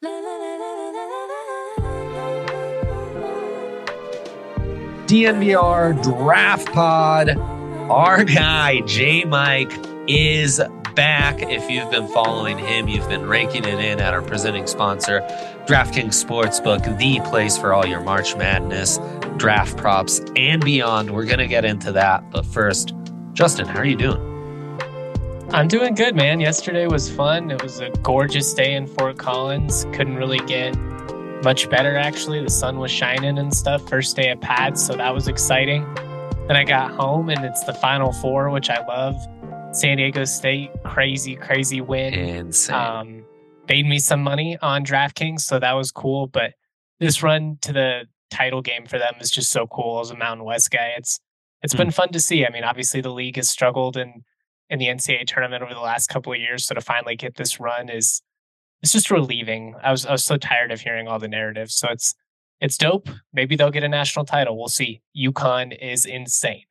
DNVR Draft Pod. Our guy, J Mike, is back. If you've been following him, you've been raking it in at our presenting sponsor, DraftKings Sportsbook, the place for all your March Madness, draft props, and beyond. We're going to get into that. But first, Justin, how are you doing? I'm doing good, man. Yesterday was fun. It was a gorgeous day in Fort Collins. Couldn't really get much better, actually. The sun was shining and stuff. First day of pads, so that was exciting. Then I got home, and it's the Final Four, which I love. San Diego State, crazy win. Insane. Made me some money on DraftKings, so that was cool. But this run to the title game for them is just so cool. As a Mountain West guy, it's been fun to see. I mean, obviously the league has struggled in the NCAA tournament over the last couple of years, so to finally get this run it's just relieving. I was so tired of hearing all the narratives, so it's dope. Maybe they'll get a national title. We'll see. UConn is insane.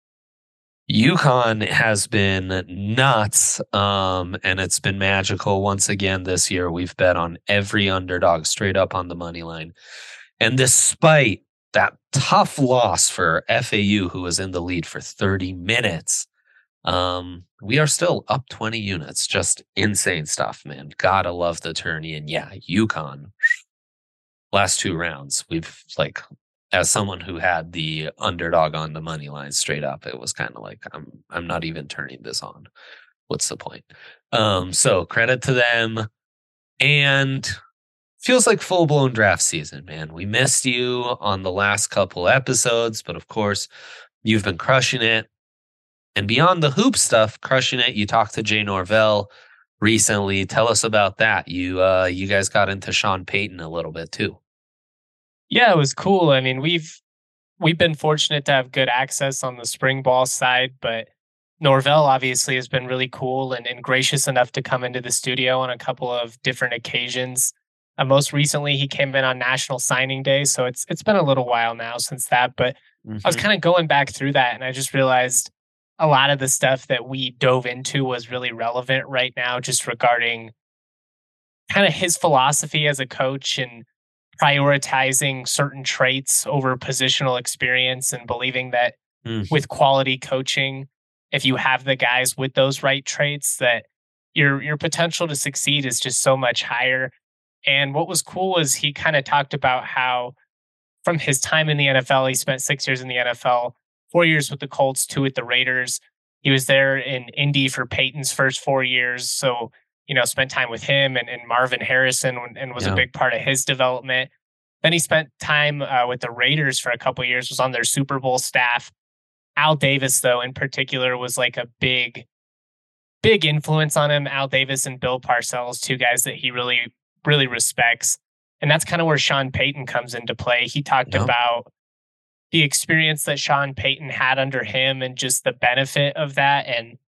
UConn has been nuts, and it's been magical. Once again this year, we've bet on every underdog straight up on the money line. And despite that tough loss for FAU, who was in the lead for 30 minutes, we are still up 20 units. Just insane stuff, man. Gotta love the tourney. And yeah, UConn, last two rounds, we've as someone who had the underdog on the money line straight up, it was kind of like, I'm not even turning this on. What's the point? So credit to them. And feels like full-blown draft season, man. We missed you on the last couple episodes, but of course, you've been crushing it. And beyond the hoop stuff, crushing it, you talked to Jay Norvell recently. Tell us about that. You guys got into Sean Payton a little bit too. Yeah, it was cool. I mean, we've been fortunate to have good access on the spring ball side, but Norvell obviously has been really cool and gracious enough to come into the studio on a couple of different occasions. Most recently, he came in on National Signing Day, so it's been a little while now since that. But I was kind of going back through that, and I just realized a lot of the stuff that we dove into was really relevant right now, just regarding kind of his philosophy as a coach and prioritizing certain traits over positional experience, and believing that with quality coaching, if you have the guys with those right traits, that your potential to succeed is just so much higher. And what was cool was he kind of talked about how from his time in the NFL, he spent 6 years in the NFL, 4 years with the Colts, 2 with the Raiders. He was there in Indy for Peyton's first 4 years. So, spent time with him and Marvin Harrison and was a big part of his development. Then he spent time with the Raiders for a couple of years, was on their Super Bowl staff. Al Davis, though, in particular, was like a big influence on him. Al Davis and Bill Parcells, two guys that he really respects. And that's kind of where Sean Payton comes into play. He talked about the experience that Sean Payton had under him and just the benefit of that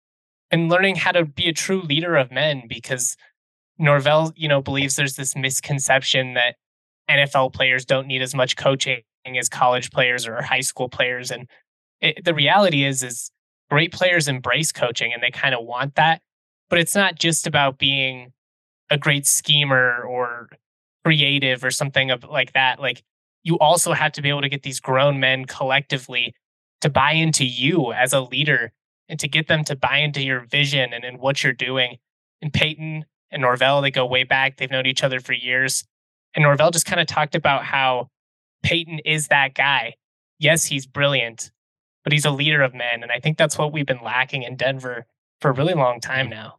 and learning how to be a true leader of men, because Norvell, believes there's this misconception that NFL players don't need as much coaching as college players or high school players. And the reality is great players embrace coaching and they kind of want that, but it's not just about being a great schemer or creative or something like that. Like, you also have to be able to get these grown men collectively to buy into you as a leader and to get them to buy into your vision and what you're doing. And Payton and Norvell, they go way back. They've known each other for years. And Norvell just kind of talked about how Payton is that guy. Yes, he's brilliant, but he's a leader of men. And I think that's what we've been lacking in Denver for a really long time now.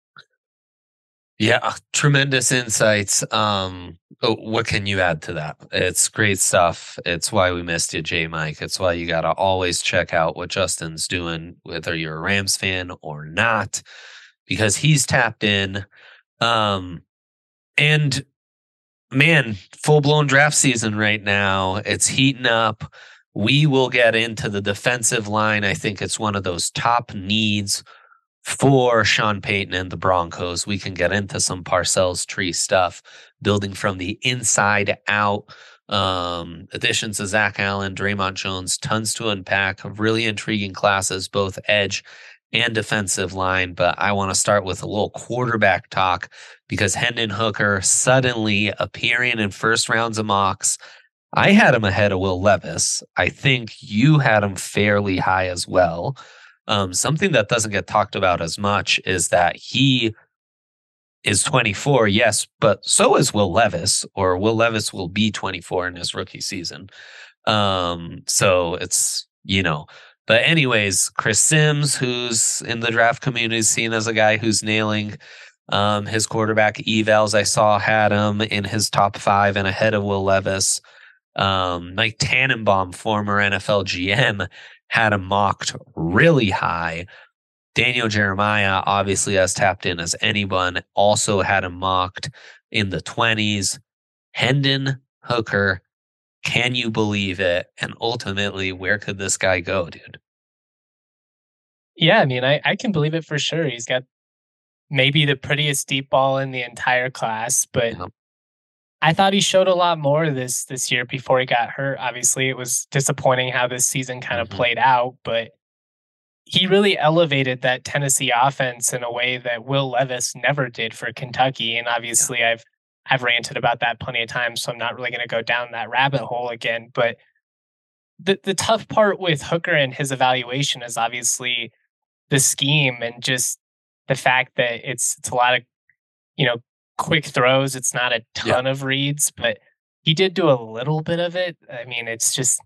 Yeah, tremendous insights. What can you add to that? It's great stuff. It's why we missed you, J Mike. It's why you got to always check out what Justin's doing, whether you're a Rams fan or not, because he's tapped in. And man, full-blown draft season right now. It's heating up. We will get into the defensive line. I think it's one of those top needs for Sean Payton and the Broncos. We can get into some Parcells tree stuff, building from the inside out. Additions to Zach Allen, Draymond Jones, tons to unpack. Really intriguing classes, both edge and defensive line, but I want to start with a little quarterback talk because Hendon Hooker suddenly appearing in first rounds of mocks. I had him ahead of Will Levis. I think you had him fairly high as well. Something that doesn't get talked about as much is that he is 24, yes, but so is Will Levis, or Will Levis will be 24 in his rookie season. So it's, but anyways, Chris Sims, who's in the draft community, is seen as a guy who's nailing his quarterback evals. I saw had him in his top 5 and ahead of Will Levis. Mike Tannenbaum, former NFL GM, had him mocked really high. Daniel Jeremiah, obviously as tapped in as anyone, also had him mocked in the 20s. Hendon Hooker, can you believe it? And ultimately, where could this guy go, dude? Yeah, I mean, I can believe it for sure. He's got maybe the prettiest deep ball in the entire class, but Yep. I thought he showed a lot more this year before he got hurt. Obviously, it was disappointing how this season kind of played out, but he really elevated that Tennessee offense in a way that Will Levis never did for Kentucky. And Yeah. obviously, I've ranted about that plenty of times, so I'm not really going to go down that rabbit hole again. But the tough part with Hooker and his evaluation is obviously the scheme and just the fact that it's a lot of you know quick throws. It's not a Yeah. ton of reads, but he did do a little bit of it. I mean, it's just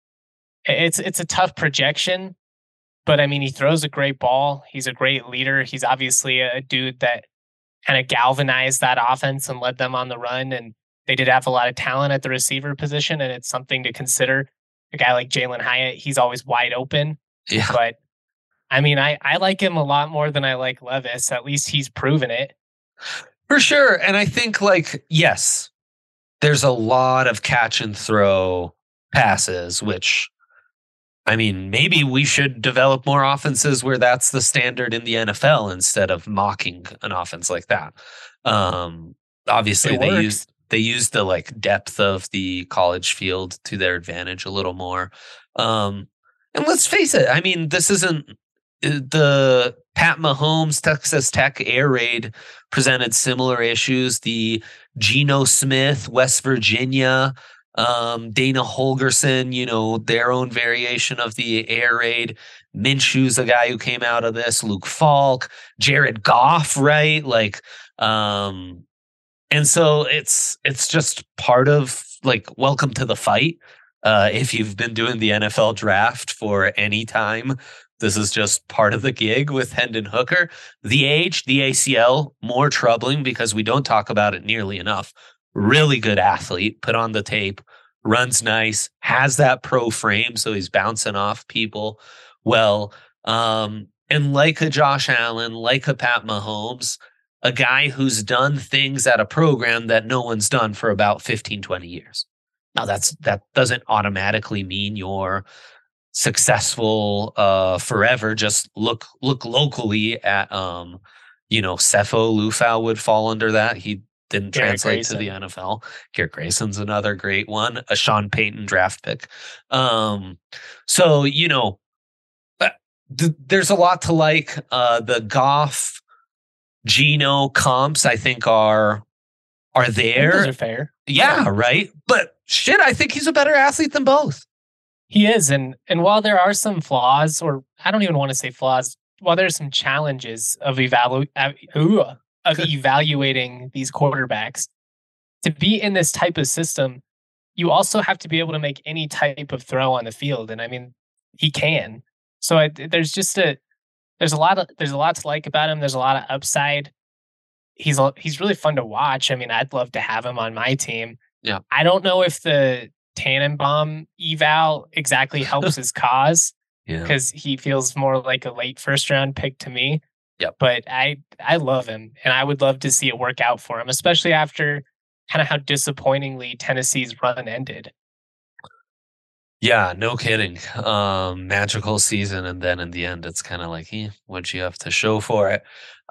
it's a tough projection. But I mean, he throws a great ball. He's a great leader. He's obviously a dude that kind of galvanized that offense and led them on the run. And they did have a lot of talent at the receiver position, and it's something to consider. A guy like Jalen Hyatt, he's always wide open. Yeah. But I mean, I like him a lot more than I like Levis. At least he's proven it. For sure. And I think, yes, there's a lot of catch and throw passes, which, I mean, maybe we should develop more offenses where that's the standard in the NFL instead of mocking an offense like that. Obviously, It works. they use the depth of the college field to their advantage a little more. And let's face it, I mean, this isn't the Pat Mahomes Texas Tech air raid presented similar issues. The Geno Smith West Virginia, Dana Holgerson, their own variation of the air raid. Minshew's a guy who came out of this. Luke Falk, Jared Goff, right? And so it's just part of welcome to the fight. If you've been doing the NFL draft for any time, this is just part of the gig with Hendon Hooker. The age, the ACL, more troubling because we don't talk about it nearly enough. Really good athlete, put on the tape, runs nice, has that pro frame, so he's bouncing off people well. And like a Josh Allen, like a Pat Mahomes, a guy who's done things at a program that no one's done for about 15, 20 years. Now that doesn't automatically mean you're successful forever. Just look locally at Sefo Lufau would fall under that. He didn't Garrett translate to the Grayson. NFL. Garrett Grayson's another great one, a Sean Payton draft pick. So there's a lot to like. The Goff Geno comps, I think, are I think there. those are fair. Yeah, right. But shit, I think he's a better athlete than both. He is, and while there are some flaws, or I don't even want to say flaws, while there's some challenges of evaluating these quarterbacks, to be in this type of system, you also have to be able to make any type of throw on the field, and I mean, he can. So there's a lot to like about him. There's a lot of upside. He's really fun to watch. I mean, I'd love to have him on my team. Yeah. I don't know if the Tannenbaum eval exactly helps his cause because he feels more like a late first round pick to me. Yep. But I love him, and I would love to see it work out for him, especially after kind of how disappointingly Tennessee's run ended. Yeah, no kidding. Magical season, and then in the end, it's kind of like, what'd you have to show for it?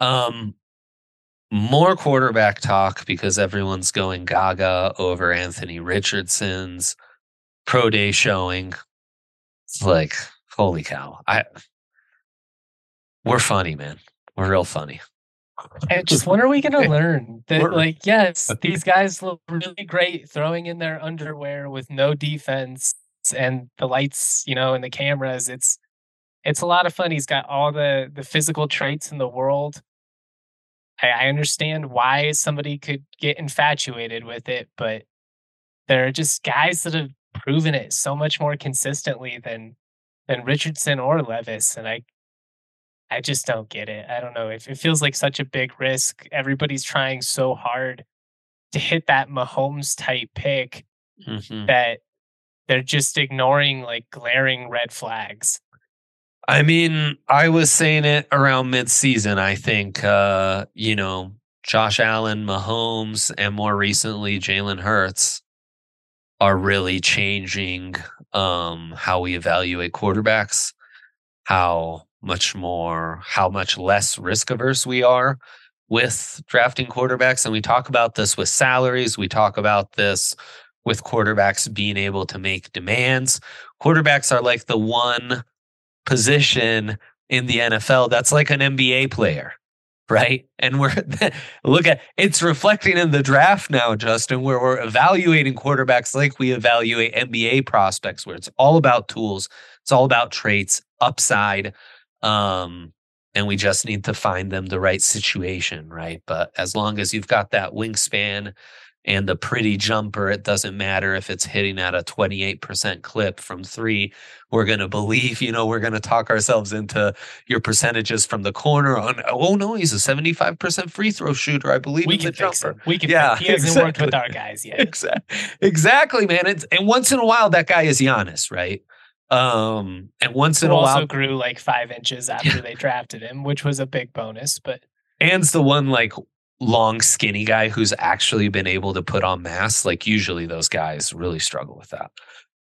More quarterback talk because everyone's going gaga over Anthony Richardson's pro day showing. It's like, holy cow. We're funny, man. We're real funny. And just when are we gonna learn that? We're Like, yes, these guys look really great throwing in their underwear with no defense and the lights, and the cameras. It's a lot of fun. He's got all the physical traits in the world. I understand why somebody could get infatuated with it, but there are just guys that have proven it so much more consistently than Richardson or Levis, and I just don't get it. I don't know. It feels like such a big risk. Everybody's trying so hard to hit that Mahomes type pick Mhm. that they're just ignoring like glaring red flags. I mean, I was saying it around midseason. I think, Josh Allen, Mahomes, and more recently Jalen Hurts are really changing how we evaluate quarterbacks, how much less risk averse we are with drafting quarterbacks. And we talk about this with salaries. We talk about this with quarterbacks being able to make demands. Quarterbacks are like the one position in the NFL that's like an NBA player, right? And we're look at it's reflecting in the draft now, Justin, where we're evaluating quarterbacks like we evaluate NBA prospects, where it's all about tools, it's all about traits, upside, um, and we just need to find them the right situation, right? But as long as you've got that wingspan and a pretty jumper, it doesn't matter if it's hitting at a 28% clip from three. We're going to believe, we're going to talk ourselves into your percentages from the corner on, oh no, he's a 75% free throw shooter. I believe We in the can fix jumper. him. We can Yeah, fix. He hasn't worked with our guys yet. Exactly, man. And once in a while, that guy is Giannis, right? And once in Who a also while, grew like 5 inches after they drafted him, which was a big bonus. But And's the one like long, skinny guy who's actually been able to put on mass. Like usually those guys really struggle with that.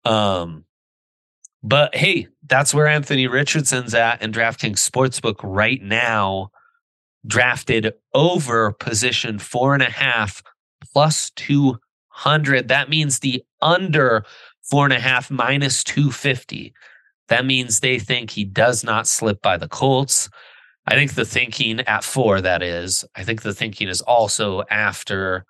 But hey, that's where Anthony Richardson's at in DraftKings Sportsbook right now, drafted over position 4.5 plus 200. That means the under 4.5 minus 250. That means they think he does not slip by the Colts. I think the thinking at 4, that is, I think the thinking is also after,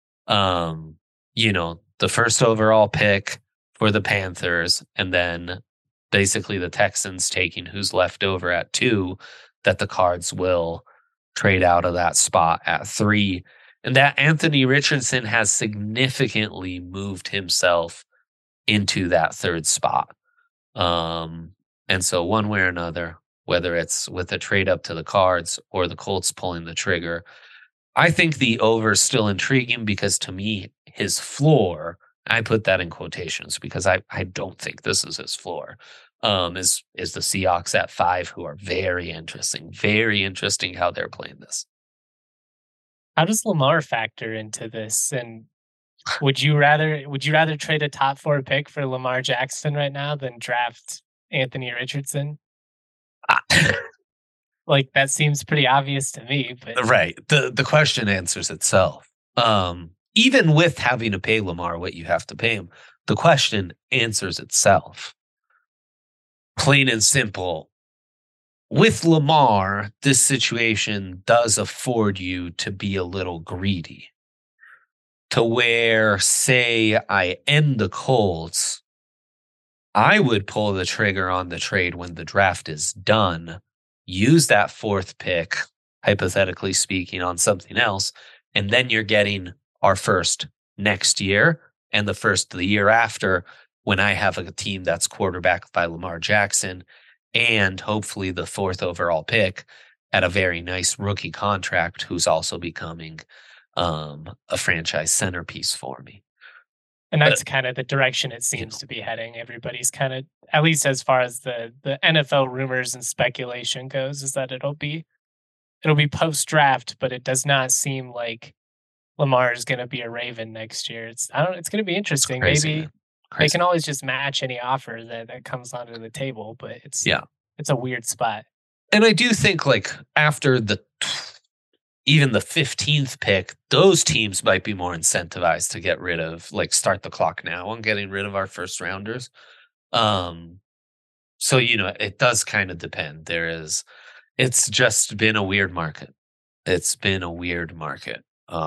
the first overall pick for the Panthers, and then basically the Texans taking who's left over at 2, that the Cards will trade out of that spot at 3. And that Anthony Richardson has significantly moved himself into that third spot. And so one way or another, whether it's with a trade up to the Cards or the Colts pulling the trigger, I think the over is still intriguing because to me, his floor, I put that in quotations because I don't think this is his floor. Is the Seahawks at 5, who are very interesting how they're playing this. how does Lamar factor into this? And would you rather trade a top 4 pick for Lamar Jackson right now than draft Anthony Richardson? Like that seems pretty obvious to me, but Right. The question answers itself. Even with having to pay Lamar what you have to pay him, the question answers itself. Plain and simple. With Lamar, this situation does afford you to be a little greedy. To where, say, I end the Colts, I would pull the trigger on the trade when the draft is done, use that 4th pick, hypothetically speaking, on something else, and then you're getting our first next year and the first the year after when I have a team that's quarterbacked by Lamar Jackson and hopefully the 4th overall pick at a very nice rookie contract who's also becoming a franchise centerpiece for me. and that's kind of the direction it seems to be heading. Everybody's kind of, at least as far as the NFL rumors and speculation goes, is that it'll be post draft, but it does not seem like Lamar is going to be a Raven next year. It's going to be interesting. Crazy, Maybe man. they Crazy. can always just match any offer that comes onto the table, but Yeah. it's a weird spot. And I do think like after even the 15th pick, those teams might be more incentivized to get rid of, like, start the clock now on getting rid of our first rounders. So, it does kind of depend. It's just been a weird market. It's been a weird market.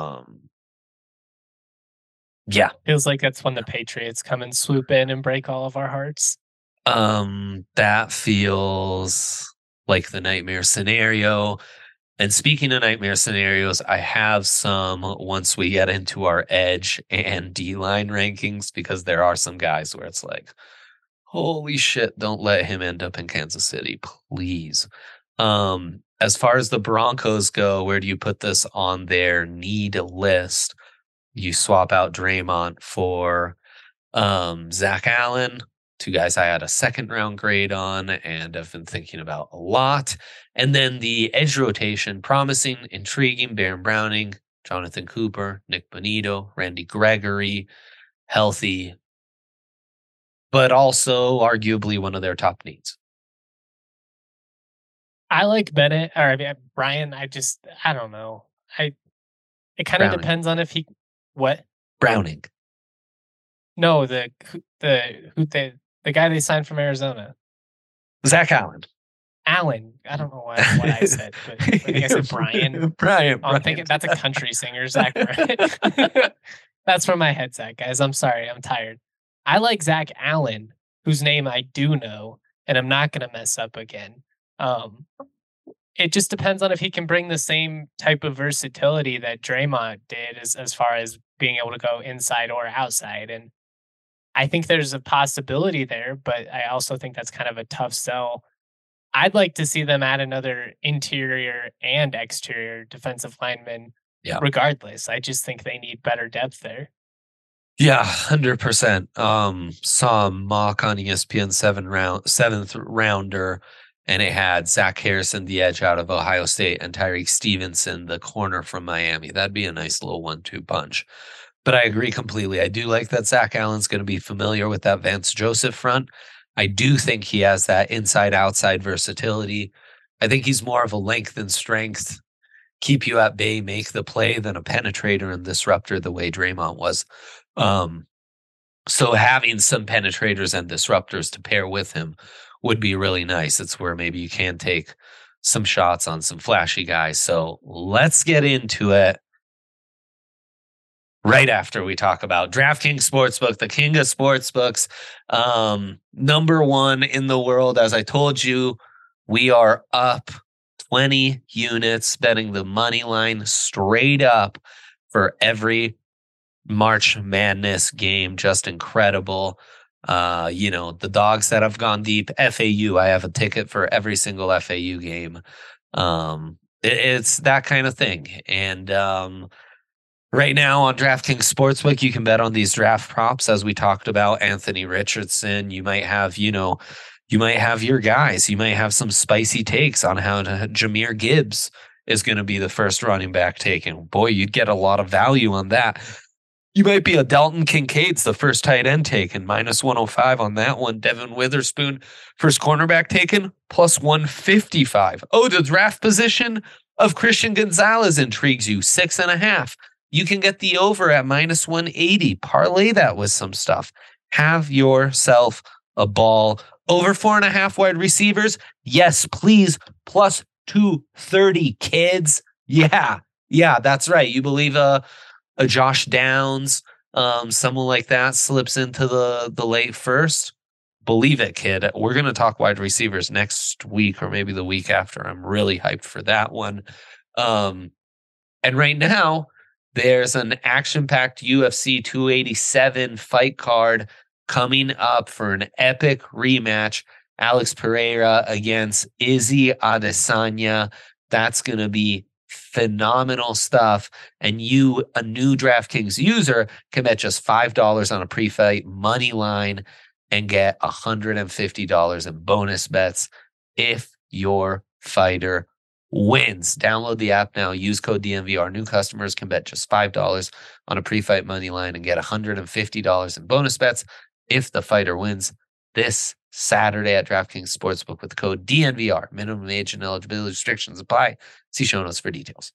Yeah. Feels like that's when the Patriots come and swoop in and break all of our hearts. That feels like the nightmare scenario. And speaking of nightmare scenarios, I have some once we get into our edge and D line rankings, because there are some guys where it's like, holy shit, don't let him end up in Kansas City, please. As far as the Broncos go, where do you put this on their need list? You swap out Draymond for Zach Allen, two guys I had a second round grade on and have been thinking about a lot. And then the edge rotation, promising, intriguing, Baron Browning, Jonathan Cooper, Nick Bonito, Randy Gregory, healthy, but also arguably one of their top needs. I like Bennett, or I mean, Brian. I don't know. It kind of depends on if he, what? Browning. No, the guy they signed from Arizona. Zach Allen. Allen. I don't know what I said, but I think I said Brian. Brian. I'm thinking that's a country singer, Zach Bryan. That's from my headset, guys. I'm sorry. I'm tired. I like Zach Allen, whose name I do know, and I'm not going to mess up again. It just depends on if he can bring the same type of versatility that Draymond did as far as being able to go inside or outside. And I think there's a possibility there, but I also think that's kind of a tough sell. I'd like to see them add another interior and exterior defensive lineman regardless. I just think they need better depth there. Yeah, 100%. Saw a mock on ESPN seventh rounder, and it had Zach Harrison, the edge out of Ohio State, and Tyreek Stevenson, the corner from Miami. That'd be a nice little 1-2 punch. But I agree completely. I do like that Zach Allen's going to be familiar with that Vance Joseph front. I do think he has that inside-outside versatility. I think he's more of a length and strength, keep you at bay, make the play, than a penetrator and disruptor the way Draymond was. So having some penetrators and disruptors to pair with him would be really nice. It's where maybe you can take some shots on some flashy guys. So let's get into it right after we talk about DraftKings Sportsbook, the king of sportsbooks, number one in the world. As I told you, we are up 20 units betting the money line straight up for every March Madness game. Just incredible. The dogs that have gone deep, FAU, I have a ticket for every single FAU game. It's that kind of thing. And right now on DraftKings Sportsbook, you can bet on these draft props. As we talked about, Anthony Richardson, you might have your guys. You might have some spicy takes on how Jahmyr Gibbs is going to be the first running back taken. Boy, you'd get a lot of value on that. You might be a Dalton Kincaid's the first tight end taken, -105 on that one. Devin Witherspoon, first cornerback taken, +155. Oh, the draft position of Christian Gonzalez intrigues you, 6.5. You can get the over at -180. Parlay that with some stuff. Have yourself a ball. Over 4.5 wide receivers. Yes, please. +230 kids. Yeah, that's right. You believe a Josh Downs, someone like that slips into the late first? Believe it, kid. We're going to talk wide receivers next week or maybe the week after. I'm really hyped for that one. And right now, there's an action-packed UFC 287 fight card coming up for an epic rematch. Alex Pereira against Izzy Adesanya. That's going to be phenomenal stuff. And you, a new DraftKings user, can bet just $5 on a pre-fight money line and get $150 in bonus bets if your fighter wins. Download the app now. Use code DNVR. New customers can bet just $5 on a pre-fight money line and get $150 in bonus bets if the fighter wins this Saturday at DraftKings Sportsbook with the code DNVR. Minimum age and eligibility restrictions apply. See show notes for details.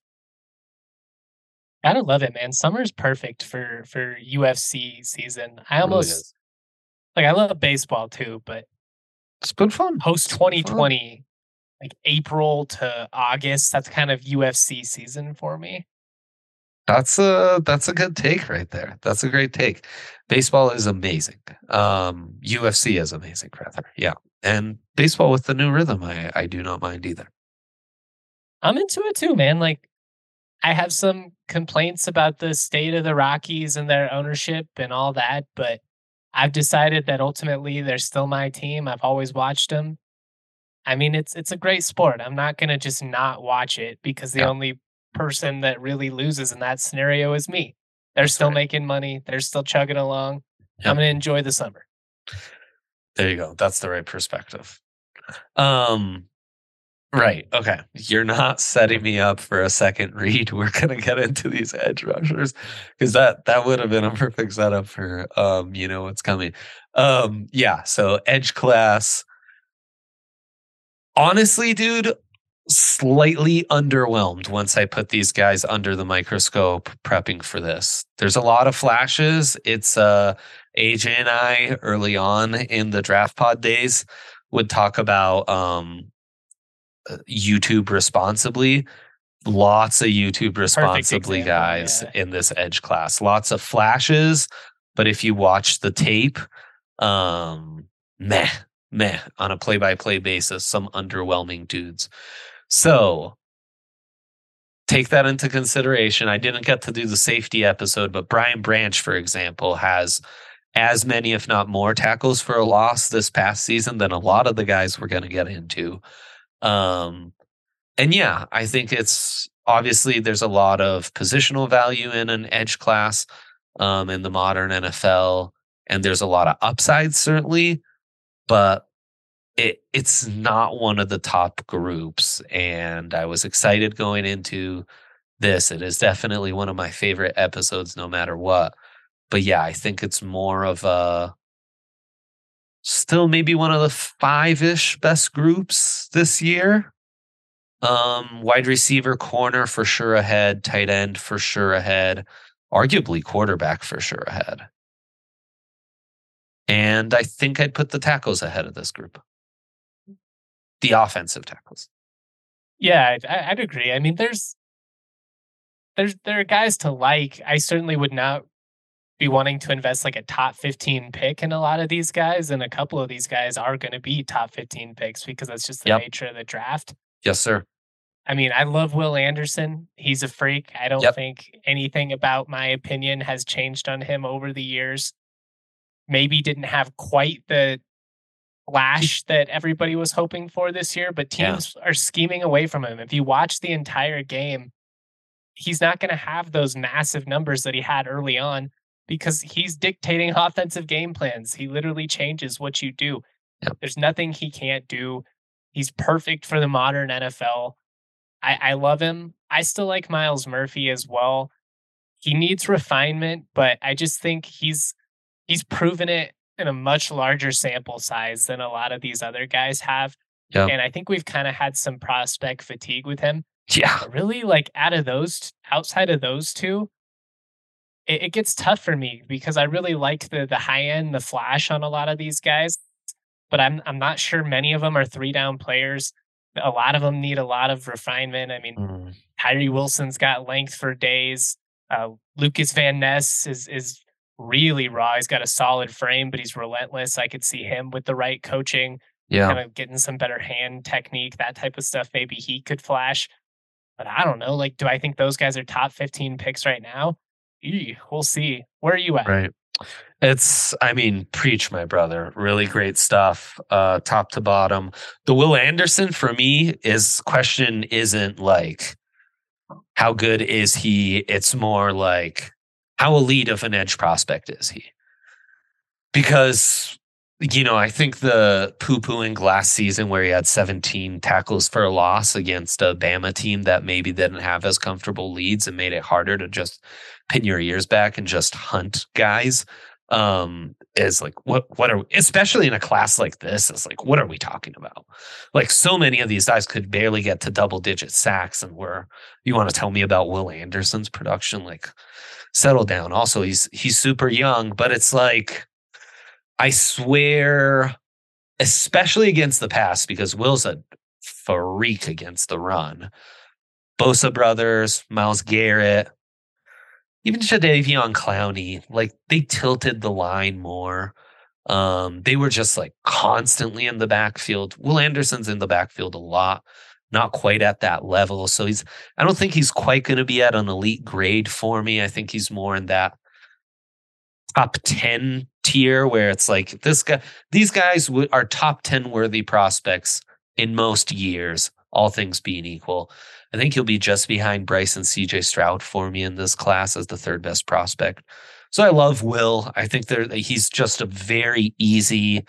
Gotta love it, man. Summer's perfect for UFC season. I almost I love baseball too, but it's been fun. Post 2020, like April to August. That's kind of UFC season for me. That's a good take right there. That's a great take. Baseball is amazing. UFC is amazing, rather. Yeah. And baseball with the new rhythm, I do not mind either. I'm into it too, man. Like I have some complaints about the state of the Rockies and their ownership and all that, but I've decided that ultimately they're still my team. I've always watched them. I mean, it's a great sport. I'm not gonna just not watch it because the Yeah, only person that really loses in that scenario is me. They're that's still right. making money. They're still chugging along. I'm Yep. gonna enjoy the summer. There you go. That's the right perspective. Um, right. Okay. You're not setting me up for a second read. We're gonna get into these edge rushers because that would have been a perfect setup for what's coming. Yeah, so edge class. Honestly, dude, slightly underwhelmed once I put these guys under the microscope prepping for this. There's a lot of flashes. It's AJ and I early on in the draft pod days would talk about YouTube responsibly. Lots of YouTube Perfect responsibly example. guys Yeah. in this edge class. Lots of flashes, but if you watch the tape, um meh, meh on a play-by-play basis, some underwhelming dudes. So take that into consideration. I didn't get to do the safety episode, but Brian Branch, for example, has as many, if not more, tackles for a loss this past season than a lot of the guys we're going to get into. Um, and yeah, I think it's obviously there's a lot of positional value in an edge class in the modern NFL, and there's a lot of upside certainly, but it's not one of the top groups. And I was excited going into this. It is definitely one of my favorite episodes, no matter what. But yeah, I think it's more of a still maybe one of the five-ish best groups this year. Wide receiver, corner for sure ahead, tight end for sure ahead, arguably quarterback for sure ahead. And I think I'd put the tackles ahead of this group. The offensive tackles. Yeah, I'd agree. I mean, there are guys to like. I certainly would not be wanting to invest like a top 15 pick in a lot of these guys, and a couple of these guys are going to be top 15 picks because that's just the Yep. nature of the draft. Yes, sir. I mean, I love Will Anderson. He's a freak. I don't Yep. think anything about my opinion has changed on him over the years. Maybe didn't have quite the flash that everybody was hoping for this year, but Yeah. teams are scheming away from him. If you watch the entire game, he's not going to have those massive numbers that he had early on because he's dictating offensive game plans. He literally changes what you do. Yep. There's nothing he can't do. He's perfect for the modern NFL. I love him. I still like Miles Murphy as well. He needs refinement, but I just think he's proven it in a much larger sample size than a lot of these other guys have. Yep. And I think we've kind of had some prospect fatigue with him. Yeah. But really, like outside of those two, it gets tough for me because I really like the high end, the flash on a lot of these guys, but I'm not sure many of them are 3 down players. A lot of them need a lot of refinement. I mean, Mm. Tyree Wilson's got length for days. Lucas Van Ness is really raw. He's got a solid frame, but he's relentless. I could see him with the right coaching, Yeah. kind of getting some better hand technique, that type of stuff. Maybe he could flash. But I don't know. Like, do I think those guys are top 15 picks right now? We'll see. Where are you at? Right. I mean, preach, my brother. Really great stuff, top to bottom. The Will Anderson for me is question isn't like how good is he? It's more like how elite of an edge prospect is he? Because I think the poo-pooing last season where he had 17 tackles for a loss against a Bama team that maybe didn't have as comfortable leads and made it harder to just pin your ears back and just hunt guys is like what are especially in a class like this is like what are we talking about? Like so many of these guys could barely get to double digit sacks, and you want to tell me about Will Anderson's production? Like settle down. Also, he's super young, but it's like I swear, especially against the pass, because Will's a freak against the run. Bosa brothers, Myles Garrett, even Jadeveon Clowney, like they tilted the line more. They were just like constantly in the backfield. Will Anderson's in the backfield a lot, not quite at that level. So I don't think he's quite going to be at an elite grade for me. I think he's more in that top 10 tier where it's like these guys are top 10 worthy prospects in most years, all things being equal. I think he'll be just behind Bryce and CJ Stroud for me in this class as the third best prospect. So I love Will. I think he's just a very easy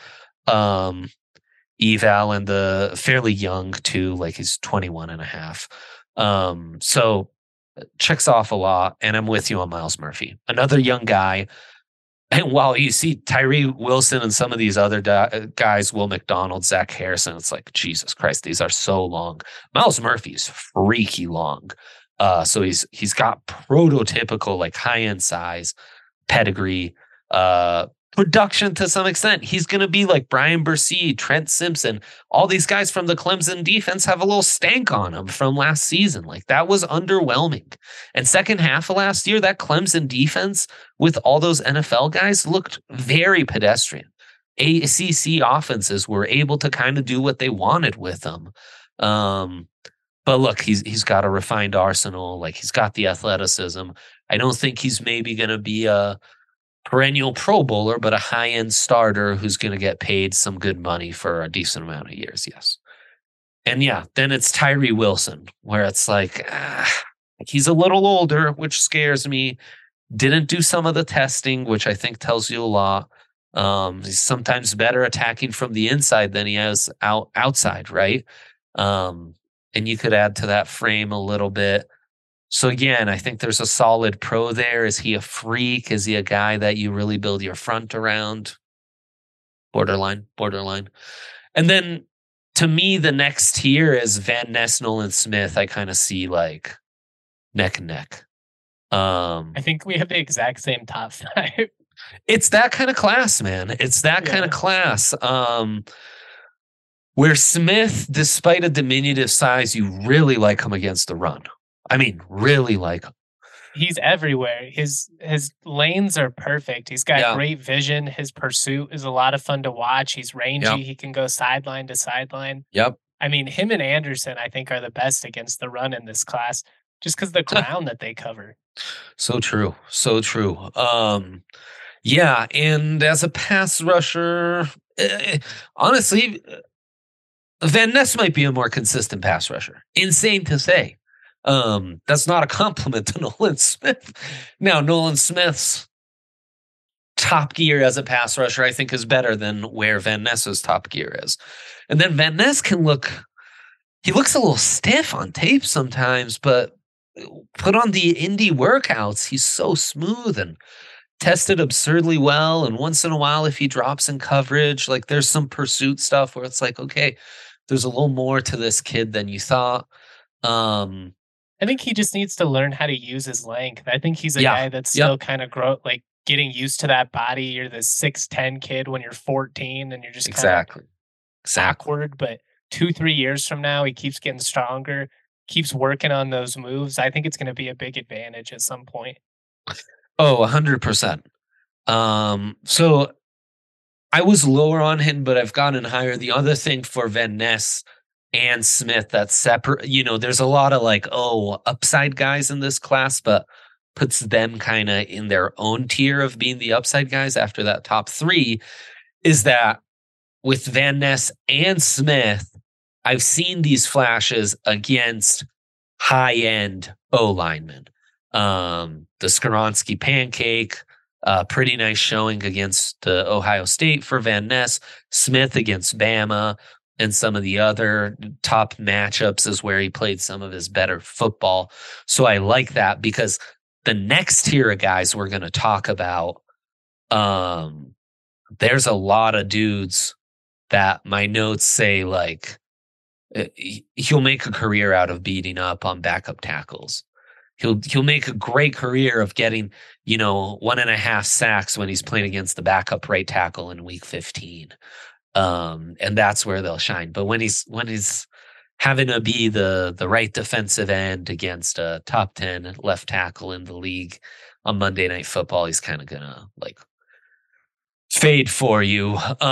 eval, and the fairly young too, like he's 21 and a half. So checks off a lot, and I'm with you on Myles Murphy. Another young guy. And while you see Tyree Wilson and some of these other guys, Will McDonald, Zach Harrison, it's like, Jesus Christ, these are so long. Myles Murphy's freaky long. So he's got prototypical, like high-end size, pedigree, production to some extent. He's going to be like Brian Bursey, Trent Simpson. All these guys from the Clemson defense have a little stank on them from last season. Like that was underwhelming. And second half of last year, that Clemson defense with all those NFL guys looked very pedestrian. ACC offenses were able to kind of do what they wanted with them. But look, he's got a refined arsenal. Like he's got the athleticism. I don't think he's maybe going to be a perennial Pro Bowler, but a high-end starter who's going to get paid some good money for a decent amount of years. Yes. And yeah, then it's Tyree Wilson, where it's like, he's a little older, which scares me. Didn't do some of the testing, which I think tells you a lot. He's sometimes better attacking from the inside than he is outside, right? And you could add to that frame a little bit. So again, I think there's a solid pro there. Is he a freak? Is he a guy that you really build your front around? Borderline. And then to me, the next tier is Van Ness, Nolan Smith. I kind of see like neck and neck. I think we have the exact same top 5. It's that kind of class, man. It's that kind of class. Where Smith, despite a diminutive size, you really like him against the run. I mean, really like him. He's everywhere. His lanes are perfect. He's got great vision. His pursuit is a lot of fun to watch. He's rangy. Yep. He can go sideline to sideline. Yep. I mean, him and Anderson, I think, are the best against the run in this class, just because the ground that they cover. So true. Yeah, and as a pass rusher, honestly, Van Ness might be a more consistent pass rusher. Insane to say. That's not a compliment to Nolan Smith. Now, Nolan Smith's top gear as a pass rusher, I think, is better than where Van Ness's top gear is. And then Van Ness he looks a little stiff on tape sometimes, but put on the indie workouts, he's so smooth and tested absurdly well. And once in a while, if he drops in coverage, like there's some pursuit stuff where it's like, okay, there's a little more to this kid than you thought. I think he just needs to learn how to use his length. I think he's a guy that's still kind of getting used to that body. You're the 6'10" kid when you're 14 and you're just exactly awkward. But 2-3 years from now, he keeps getting stronger, keeps working on those moves. I think it's going to be a big advantage at some point. Oh, 100%. So I was lower on him, but I've gotten higher. The other thing for Van Ness and Smith that's separate, there's a lot of upside guys in this class, but puts them kind of in their own tier of being the upside guys after that top 3, is that with Van Ness and Smith, I've seen these flashes against high-end O-linemen. The Skoronski pancake, pretty nice showing against Ohio State for Van Ness. Smith against Bama. And some of the other top matchups is where he played some of his better football. So I like that because the next tier of guys we're going to talk about, there's a lot of dudes that my notes say he'll make a career out of beating up on backup tackles. He'll make a great career of getting, 1.5 sacks when he's playing against the backup right tackle in week 15. And that's where they'll shine. But when he's having to be the right defensive end against a top 10 left tackle in the league on Monday Night Football, he's kind of gonna like fade for you.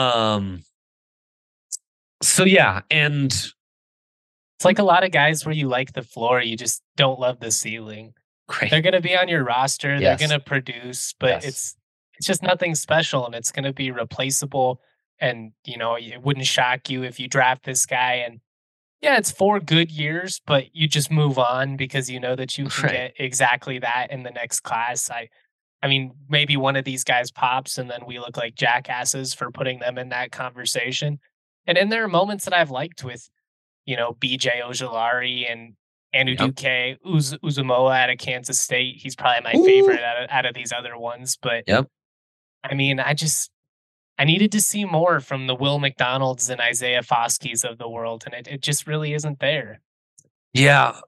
So yeah, and It's like a lot of guys where you like the floor, you just don't love the ceiling. great. They're gonna be on your roster, they're Yes. gonna produce, but Yes. it's just nothing special and it's gonna be replaceable. And it wouldn't shock you if you draft this guy and yeah, it's 4 good years, but you just move on because you know that you can Right. get exactly that in the next class. I mean, maybe one of these guys pops and then we look like jackasses for putting them in that conversation. And then there are moments that I've liked with, BJ Ojolari and Yep. Anuduke Uzumoa out of Kansas State. He's probably my Ooh. favorite out of these other ones. But Yep. I mean, I needed to see more from the Will McDonalds and Isaiah Foskey's of the world, and it just really isn't there. Yeah.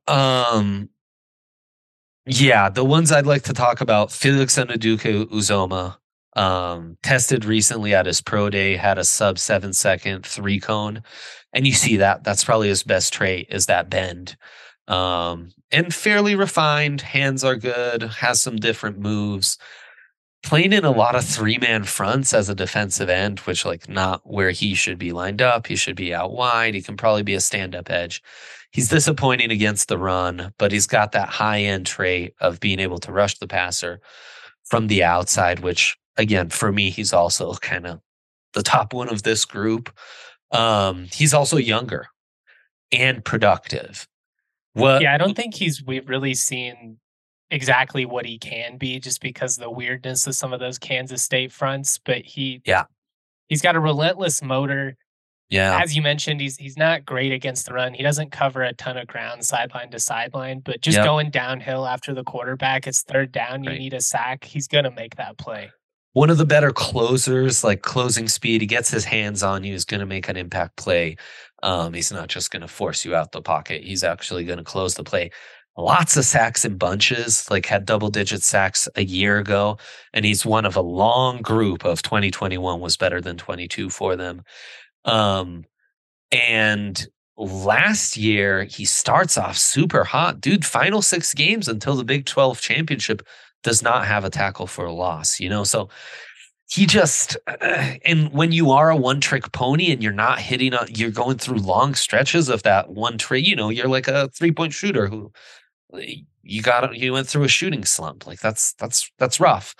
Yeah, the ones I'd like to talk about, Felix Anudike Uzoma, tested recently at his pro day, had a sub 7-second 3 cone. And you see that that's probably his best trait is that bend. And fairly refined, hands are good, has some different moves. Playing in a lot of 3-man fronts as a defensive end, which like not where he should be lined up. He should be out wide. He can probably be a stand-up edge. He's disappointing against the run, but he's got that high-end trait of being able to rush the passer from the outside, which again, for me, he's also kind of the top one of this group. He's also younger and productive. What Yeah, I don't think we've really seen exactly what he can be just because of the weirdness of some of those Kansas State fronts, but yeah, he's got a relentless motor. yeah, As you mentioned, he's not great against the run. He doesn't cover a ton of ground sideline to sideline, but just yep, going downhill after the quarterback, it's third down, you right. need a sack. He's gonna make that play. One of the better closers, like closing speed. He gets his hands on you. He's going to make an impact play. He's not just going to force you out the pocket. He's actually going to close the play. Lots of sacks in bunches, like had double-digit sacks a year ago. And he's one of a long group of 2021 was better than 22 for them. And last year, he starts off super hot. Dude, final 6 games until the Big 12 championship does not have a tackle for a loss, So he just, and when you are a one-trick pony and you're not hitting, you're going through long stretches of that one trick, you're like a 3-point shooter who you went through a shooting slump. Like that's rough.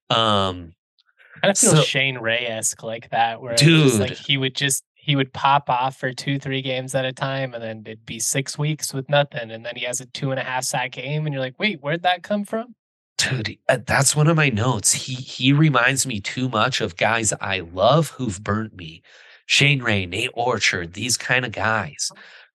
Kind of feels So Shane Ray-esque like that, where it's just like dude, he would pop off for 2, 3 games at a time, and then it'd be 6 weeks with nothing, and then he has a 2.5 sack game, and you're like, wait, where'd that come from? dude, that's one of my notes. He reminds me too much of guys I love who've burnt me. Shane Ray, Nate Orchard, these kind of guys.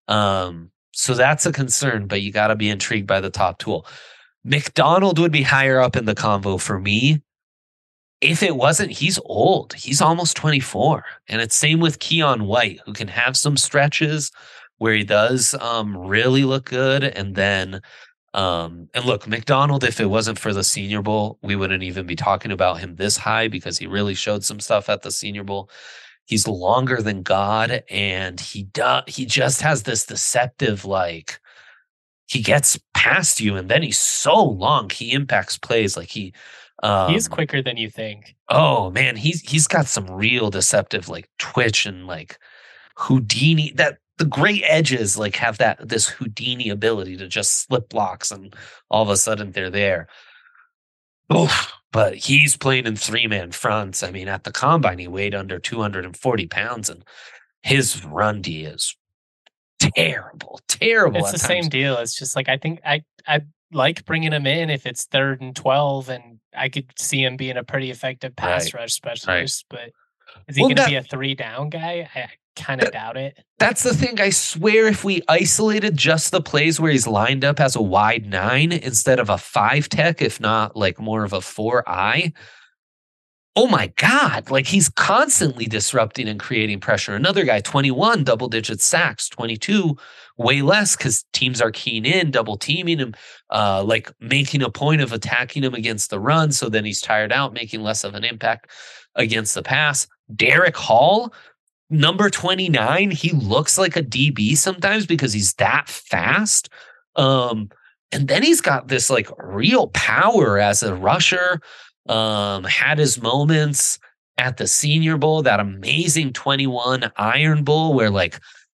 So that's a concern, but you got to be intrigued by the top tool. McDonald would be higher up in the convo for me. If it wasn't, he's old. He's almost 24. And it's same with Keon White, who can have some stretches where he does really look good. And then, and look, McDonald, if it wasn't for the Senior Bowl, we wouldn't even be talking about him this high because he really showed some stuff at the Senior Bowl. He's longer than God, and he just has this deceptive, like, he gets past you and then he's so long. He impacts plays like He is um quicker than you think. oh man, he's got some real deceptive like twitch and like Houdini, that the great edges like have this Houdini ability to just slip blocks and all of a sudden they're there. Oof. But he's playing in 3-man fronts. I mean, at the combine, he weighed under 240 pounds, and his run D is terrible It's at the same times. deal. It's just like I think I like bringing him in if it's 3rd and 12, and I could see him being a pretty effective pass Right, rush right. specialist. But is he Well, going to be a 3 down guy? I kind of that doubt it. that's the thing. I swear, if we isolated just the plays where he's lined up as a wide 9 instead of a 5 tech, if not like more of a 4-eye, oh my God, like he's constantly disrupting and creating pressure. Another guy, 21, double digit sacks, 22, way less because teams are keen in, double teaming him, like making a point of attacking him against the run. So then he's tired out, making less of an impact against the pass. Derek Hall, number 29, he looks like a DB sometimes because he's that fast. And then he's got this like real power as a rusher. Had his moments at the Senior Bowl, that amazing 21 Iron Bowl where like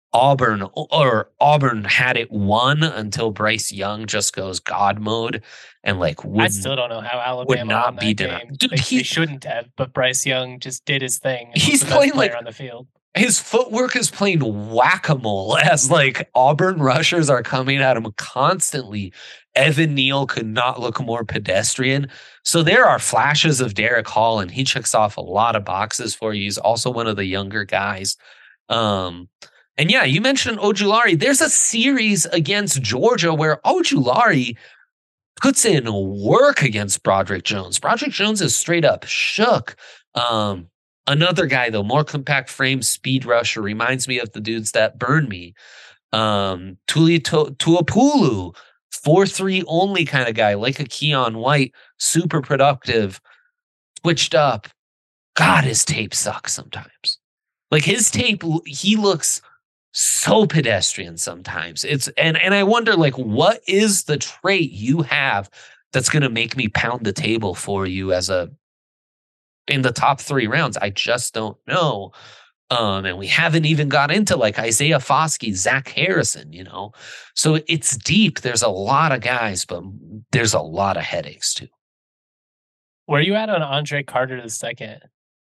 Auburn had it won until Bryce Young just goes God mode and like I still don't know how Alabama would not won be that denied. game. Dude, They shouldn't have, but Bryce Young just did his thing. And he's was the best playing player like on the field. His footwork is playing whack-a-mole as like Auburn rushers are coming at him constantly. Evan Neal could not look more pedestrian. So there are flashes of Derek Hall, and he checks off a lot of boxes for you. He's also one of the younger guys. And yeah, you mentioned Ojulari. There's a series against Georgia where Ojulari puts in work against Broderick Jones. Broderick Jones is straight up shook. Another guy, though, more compact frame, speed rusher, reminds me of the dudes that burn me. Tuli Tuapulu, 4-3 only kind of guy, like a Keon White, super productive, switched up. God, his tape sucks sometimes. Like his tape, he looks so pedestrian sometimes. And I wonder, like, what is the trait you have that's going to make me pound the table for you in the top 3 rounds? I just don't know. And we haven't even got into like Isaiah Foskey, Zach Harrison, So it's deep. There's a lot of guys, but there's a lot of headaches too. Where are you at on Andre Carter II?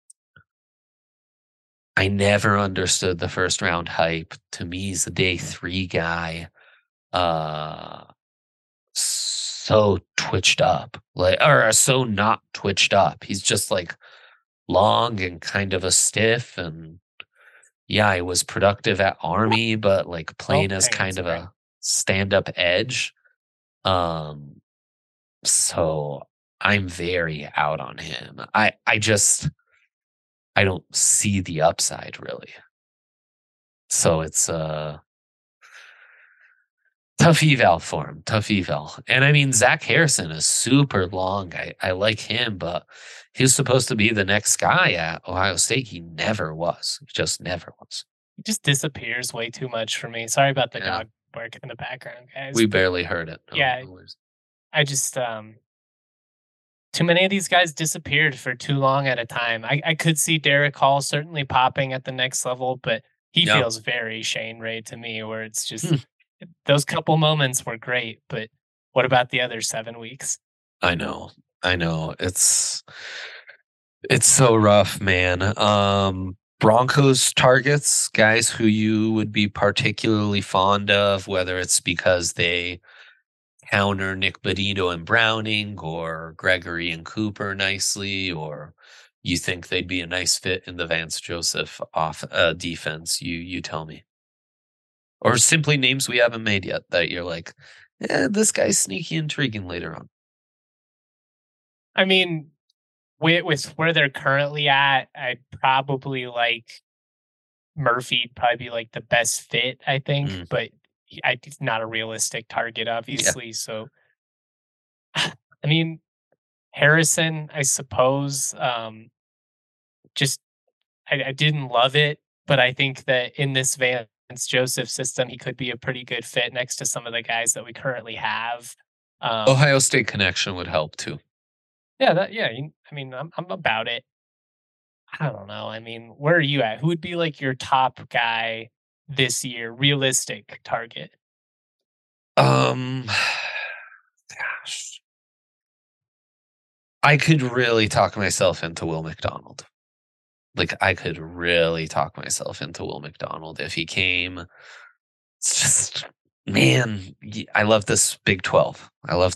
I never understood the first round hype. To me, he's a day 3 guy. So twitched up, or so not twitched up. He's just like long and kind of a stiff, and yeah, he was productive at Army, but like playing as kind of a stand-up edge. So I'm very out on him. I don't see the upside really. So it's tough eval for him. Tough eval. And I mean, Zach Harrison is super long. I like him, but he was supposed to be the next guy at Ohio State. He never was. He just never was. He just disappears way too much for me. Sorry about the dog bark in the background, guys. We barely heard it. No, I just too many of these guys disappeared for too long at a time. I could see Derek Hall certainly popping at the next level, but he feels very Shane Ray to me, where it's just those couple moments were great, but what about the other 7 weeks? I know. It's so rough, man. Broncos targets, guys who you would be particularly fond of, whether it's because they counter Nick Bonitto and Browning or Gregory and Cooper nicely, or you think they'd be a nice fit in the Vance Joseph defense. You tell me. Or simply names we haven't made yet that you're like, this guy's sneaky intriguing later on. I mean, with where they're currently at, I'd probably like Murphy'd probably be like the best fit, I think, but it's not a realistic target, obviously. Yeah. So, I mean, Harrison, I suppose, just I didn't love it, but I think that in this Vance Joseph system, he could be a pretty good fit next to some of the guys that we currently have. Ohio State connection would help too. Yeah, I mean, I'm about it. I don't know. I mean, where are you at? Who would be like your top guy this year? Realistic target. Gosh. I could really talk myself into Will McDonald. Like, I could really talk myself into Will McDonald if he came. It's just, man, I love this Big 12.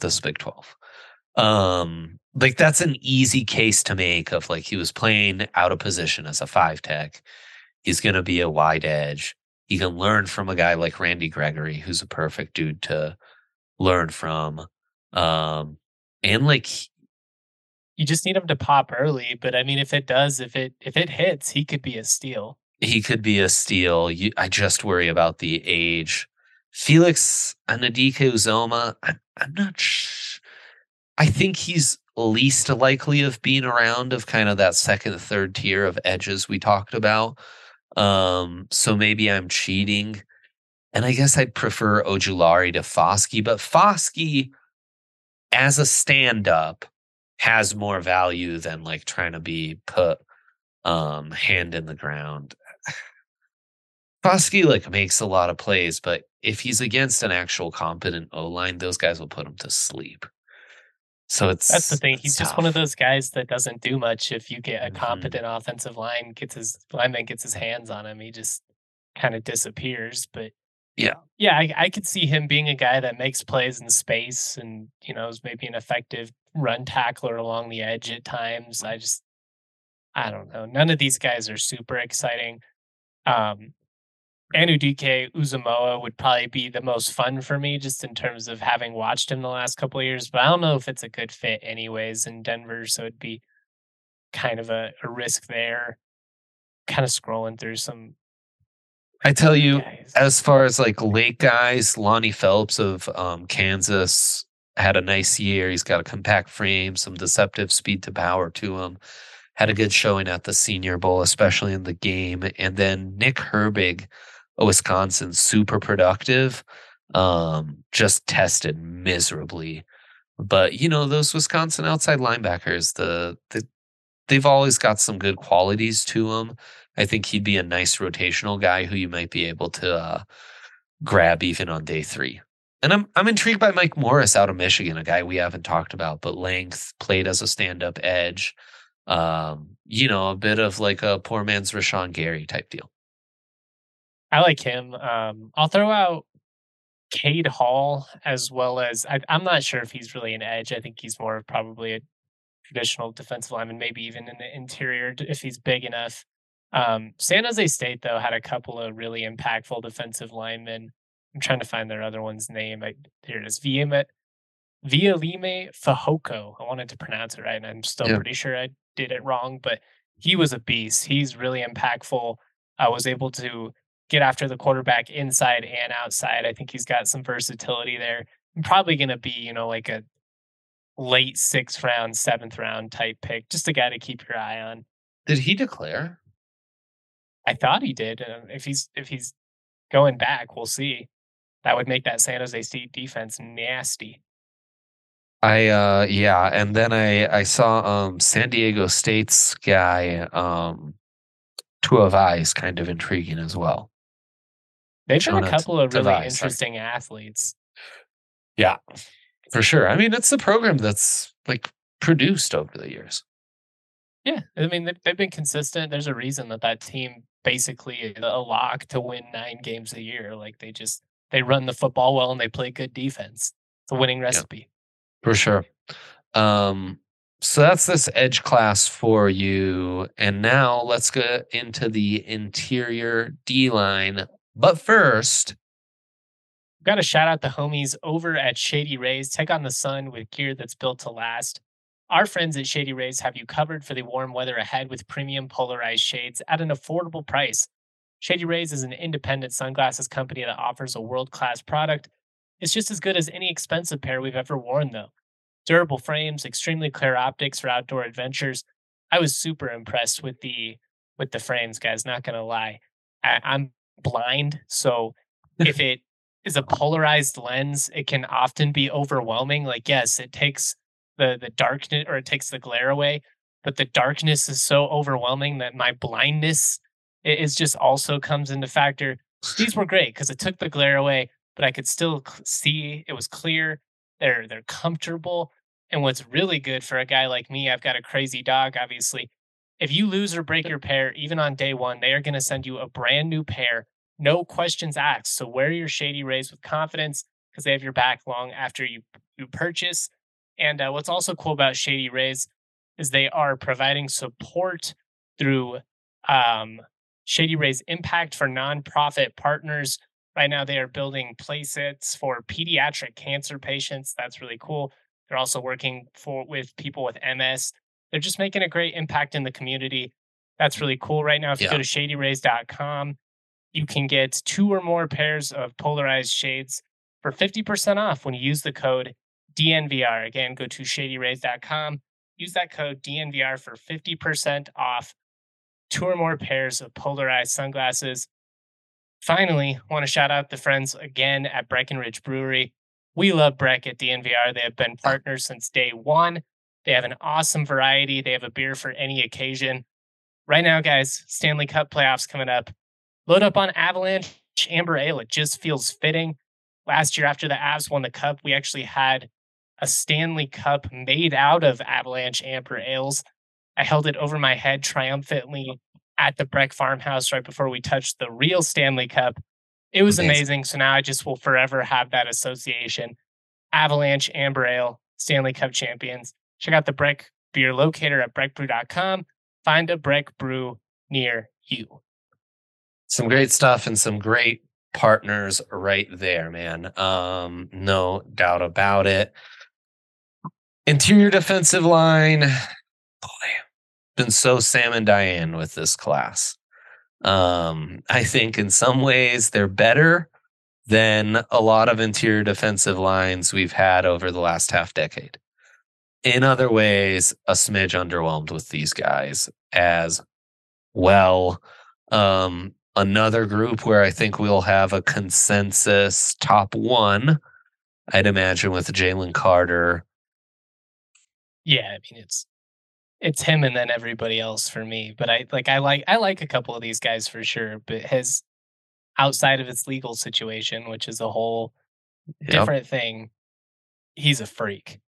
Like, that's an easy case to make of like he was playing out of position as a 5 tech. He's going to be a wide edge. He can learn from a guy like Randy Gregory, who's a perfect dude to learn from. And like, you just need him to pop early. But I mean, if it hits, he could be a steal. He could be a steal. I just worry about the age. Felix Anudike-Uzomah, I'm not sure. I think he's least likely of being around of kind of that second, third tier of edges we talked about. So maybe I'm cheating. And I guess I'd prefer Ojulari to Foskey, but Foskey as a stand-up has more value than like trying to be put hand in the ground. Foskey like makes a lot of plays, but if he's against an actual competent O line, those guys will put him to sleep. So That's the thing. it's He's just one of tough. those guys that doesn't do much. If you get a Mhm. competent offensive lineman gets his hands on him, he just kind of disappears. But Yeah. yeah, I could see him being a guy that makes plays in space and, is maybe an effective run tackler along the edge at times. I don't know. None of these guys are super exciting. Um, Anudike Uzumaki would probably be the most fun for me just in terms of having watched him the last couple of years, but I don't know if it's a good fit anyways in Denver, so it'd be kind of a risk there. Kind of scrolling through some I tell other you, guys. as far as like late guys, Lonnie Phelps of Kansas had a nice year. He's got a compact frame, some deceptive speed to power to him. Had a good showing at the Senior Bowl, especially in the game. And then Nick Herbig, a Wisconsin, super productive, just tested miserably. But those Wisconsin outside linebackers, they've always got some good qualities to him. I think he'd be a nice rotational guy who you might be able to grab even on day 3. And I'm intrigued by Mike Morris out of Michigan, a guy we haven't talked about, but length, played as a stand-up edge. A bit of like a poor man's Rashawn Gary type deal. I like him. I'll throw out Cade Hall as well as I'm not sure if he's really an edge. I think he's more of probably a traditional defensive lineman, maybe even in the interior if he's big enough. San Jose State though had a couple of really impactful defensive linemen. I'm trying to find their other one's name. Here it is. Vialime Fahoko. I wanted to pronounce it right, and I'm still Yeah. pretty sure I did it wrong, but he was a beast. He's really impactful. I was able to get after the quarterback inside and outside. I think he's got some versatility there. I'm probably going to be, like a late 6th round, 7th round type pick, just a guy to keep your eye on. Did he declare? I thought he did. If he's going back, we'll see. That would make that San Jose State defense nasty. Yeah, and then I saw San Diego State's guy Tuavai is kind of intriguing as well. They've got a Jonah couple of really Tavai, sorry. interesting athletes. Yeah, for sure. I mean, it's the program that's like produced over the years. Yeah, I mean they've been consistent. There's a reason that team basically is a lock to win 9 games a year. Like they run the football well and they play good defense. It's a winning Yeah, recipe. for sure. Um, so that's this edge class for you. And now let's get into the interior D line. But first, Got to shout out the homies over at Shady Rays. Take on the sun with gear that's built to last. Our friends at Shady Rays have you covered for the warm weather ahead with premium polarized shades at an affordable price. Shady Rays is an independent sunglasses company that offers a world class product. It's just as good as any expensive pair we've ever worn, though. Durable frames, extremely clear optics for outdoor adventures. I was super impressed with the frames, guys. Not gonna lie, I'm blind, so if it is a polarized lens, it can often be overwhelming. Like, yes, it takes the darkness or it takes the glare away, but the darkness is so overwhelming that my blindness is just also comes into factor. These were great because it took the glare away, but I could still see. It was clear. They're comfortable. And what's really good for a guy like me, I've got a crazy dog, obviously. If you lose or break your pair, even on day one, they are going to send you a brand new pair, no questions asked. So wear your Shady Rays with confidence because they have your back long after you purchase. And what's also cool about Shady Rays is they are providing support through um, Shady Rays Impact for nonprofit partners. Right now, they are building playsets for pediatric cancer patients. That's really cool. They're also working with people with MS. They're just making a great impact in the community. That's really cool. Right now, if you go yeah, to shadyrays.com, you can get 2 or more pairs of polarized shades for 50% off when you use the code DNVR. Again, go to shadyrays.com, use that code DNVR for 50% off. 2 or more pairs of polarized sunglasses. Finally, want to shout out the friends again at Breckenridge Brewery. We love Breck at DNVR. They have been partners since day one. They have an awesome variety. They have a beer for any occasion. Right now, guys, Stanley Cup playoffs coming up. Load up on Avalanche Amber Ale. It just feels fitting. Last year, after the Avs won the Cup, we actually had a Stanley Cup made out of Avalanche Amber Ales. I held it over my head triumphantly at the Breck farmhouse right before we touched the real Stanley Cup. It was Amazing. amazing. So now I just will forever have that association. Avalanche Amber Ale, Stanley Cup champions. Check out the Breck beer locator at breckbrew.com. Find a Breck brew near you. Some great stuff and some great partners right there, man. No doubt about it. Interior defensive line, boy, been so Sam and Diane with this class. I think in some ways they're better than a lot of interior defensive lines we've had over the last half decade. In other ways, a smidge underwhelmed with these guys as well. Another group where I think we'll have a consensus top one, I'd imagine, with Jalen Carter. Yeah, I mean it's him and then everybody else for me. But I like a couple of these guys for sure. But his outside of his legal situation, which is a whole different thing, he's a freak.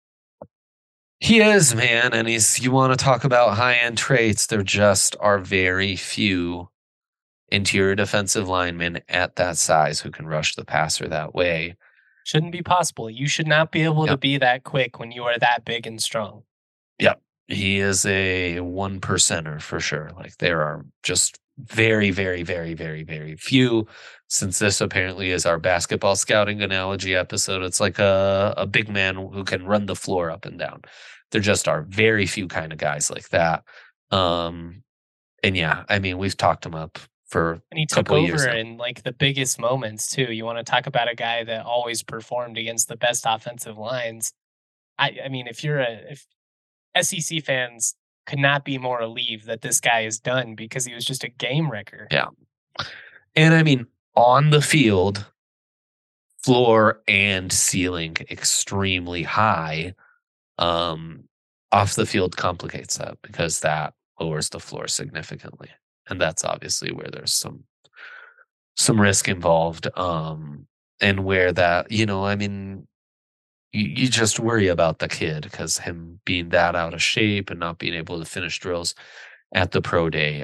He is, man, and you want to talk about high-end traits, there just are very few interior defensive linemen at that size who can rush the passer that way. Shouldn't be possible. You should not be able to be that quick when you are that big and strong. Yep. He is a 1%er for sure. Like there are just very, very, very, very, very few. Since this apparently is our basketball scouting analogy episode, it's like a big man who can run the floor up and down. There just are very few kind of guys like that. And yeah, I mean, we've talked him up for and he took over in like the biggest moments too. You want to talk about a guy that always performed against the best offensive lines. I mean, if SEC fans could not be more relieved that this guy is done because he was just a game wrecker. Yeah. And I mean, on the field, floor and ceiling extremely high. Off the field complicates that because that lowers the floor significantly. And that's obviously where there's some risk involved. And where that, I mean, you just worry about the kid because him being that out of shape and not being able to finish drills at the pro day,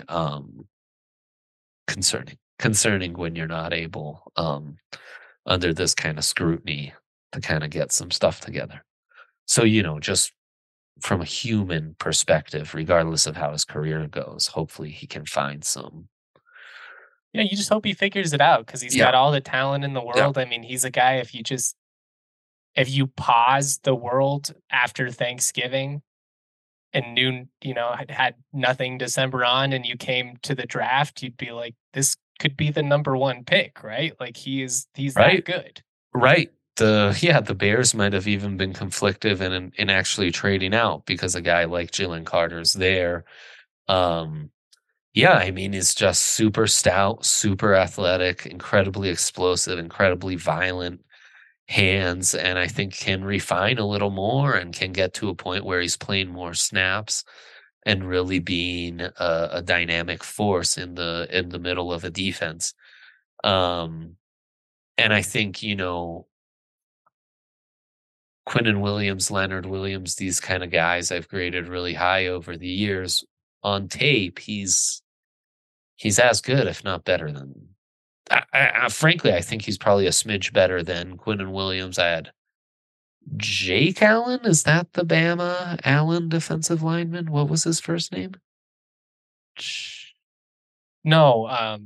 concerning when you're not able, under this kind of scrutiny to kind of get some stuff together. So, just from a human perspective, regardless of how his career goes, hopefully he can find some. Yeah, you just hope he figures it out because he's got all the talent in the world. I mean, he's a guy, if you pause the world after Thanksgiving and knew, had nothing December on and you came to the draft, you'd be like, this could be the number one pick, right? Like he's right. That good. Right. The Bears might have even been conflictive in actually trading out because a guy like Jalen Carter's there. Yeah, I mean, he's just super stout, super athletic, incredibly explosive, incredibly violent hands, and I think can refine a little more and can get to a point where he's playing more snaps and really being a dynamic force in the middle of a defense. And I think, Quinnen Williams, Leonard Williams, these kind of guys I've graded really high over the years. On tape, he's as good, if not better than. Frankly, I think he's probably a smidge better than Quinnen Williams. I had Jake Allen. Is that the Bama Allen defensive lineman? What was his first name? No,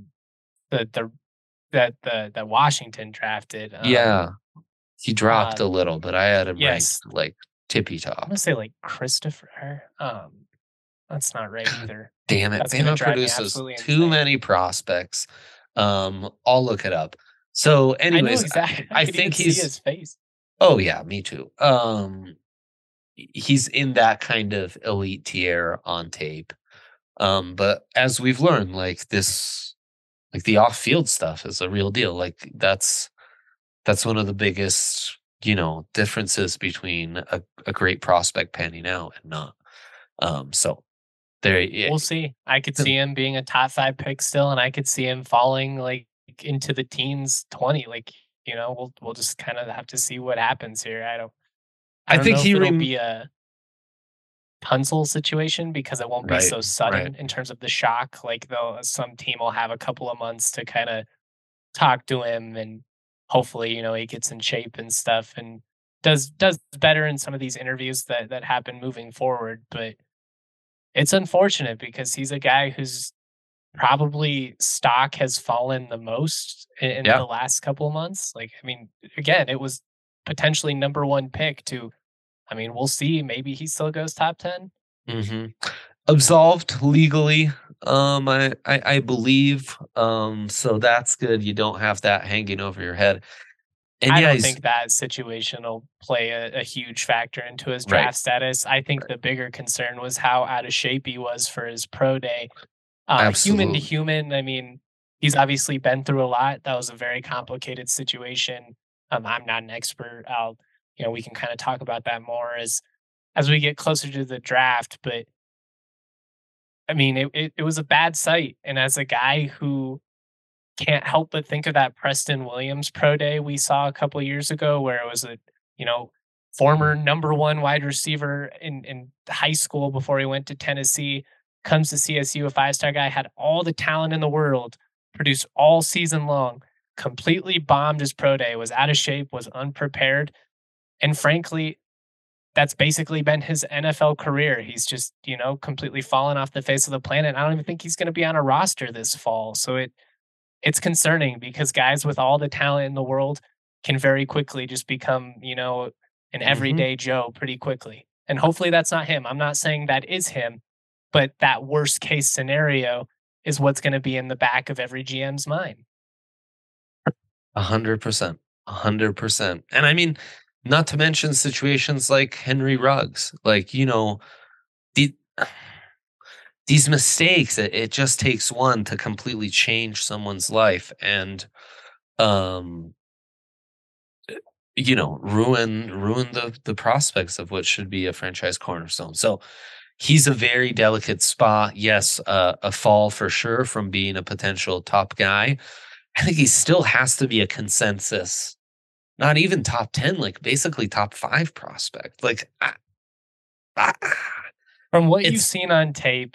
that Washington drafted. Yeah, he dropped a little, but I had him ranked like tippy top. I'm gonna say like Christopher. That's not right either. Damn it! Bama produces too many prospects. I'll look it up. So, anyways, I think he's his face. Oh yeah, me too. He's in that kind of elite tier on tape. But as we've learned, like this, like the off-field stuff is a real deal. Like that's one of the biggest, differences between a great prospect panning out and not. So there, yeah, We'll see. I could see him being a top 5 pick still, and I could see him falling, like, into the teens, 20, like, we'll just kinda have to see what happens here. I I don't think know he if it'll rem be a Tunsil situation because it won't be right, so right. sudden in terms of the shock, like, some team will have a couple of months to kinda talk to him, and hopefully, he gets in shape and stuff and does better in some of these interviews that happen moving forward, but it's unfortunate because he's a guy whose probably stock has fallen the most in Yeah. the last couple of months. Like, I mean, again, it was potentially number 1 pick to I mean, we'll see, maybe he still goes top 10. hmm Absolved legally, I believe. So that's good. You don't have that hanging over your head. And I yeah, don't he's think that situation will play a huge factor into his right, draft status. I think right. the bigger concern was how out of shape he was for his pro day. Human to Absolutely. human, I mean, he's obviously been through a lot. That was a very complicated situation. I'm not an expert. We can kind of talk about that more as we get closer to the draft. But I mean, it was a bad sight. And as a guy who can't help but think of that Preston Williams pro day we saw a couple of years ago, where it was a you know former number 1 wide receiver in high school before he went to Tennessee, comes to CSU, a 5-star guy, had all the talent in the world, produced all season long, completely bombed his pro day, was out of shape, was unprepared, and frankly, that's basically been his NFL career. He's just completely fallen off the face of the planet. I don't even think he's going to be on a roster this fall. So it's concerning because guys with all the talent in the world can very quickly just become, an hmm everyday Joe pretty quickly. And hopefully that's not him. I'm not saying that is him, but that worst case scenario is what's going to be in the back of every GM's mind. 100%. 100%. And I mean, not to mention situations like Henry Ruggs. Like, the these mistakes, it just takes one to completely change someone's life and um ruin the prospects of what should be a franchise cornerstone. So he's a very delicate spot. Yes, a fall for sure from being a potential top guy. I think he still has to be a consensus, not even top 10, like basically top 5 prospect. Like I, From what you've it's seen on tape,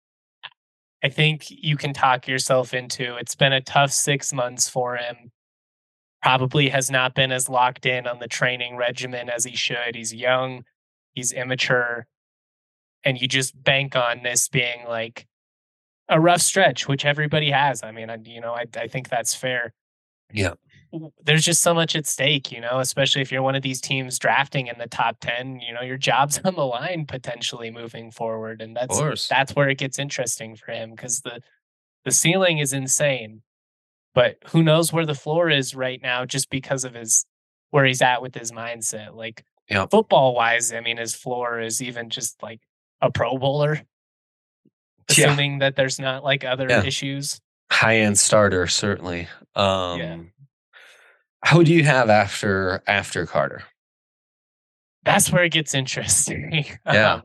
I think you can talk yourself into it's been a tough 6 months for him. Probably has not been as locked in on the training regimen as he should. He's young, he's immature, and you just bank on this being like a rough stretch, which everybody has. I mean, I think that's fair. yeah, There's just so much at stake, especially if you're one of these teams drafting in the top 10, your job's on the line potentially moving forward. And of course. that's where it gets interesting for him because the ceiling is insane, but who knows where the floor is right now just because of his where he's at with his mindset. Like Yeah. football wise, I mean, his floor is even just like a pro bowler, Yeah. assuming that there's not like other Yeah. issues. High-end starter, certainly. Yeah. Who do you have after Carter? That's where it gets interesting. Yeah.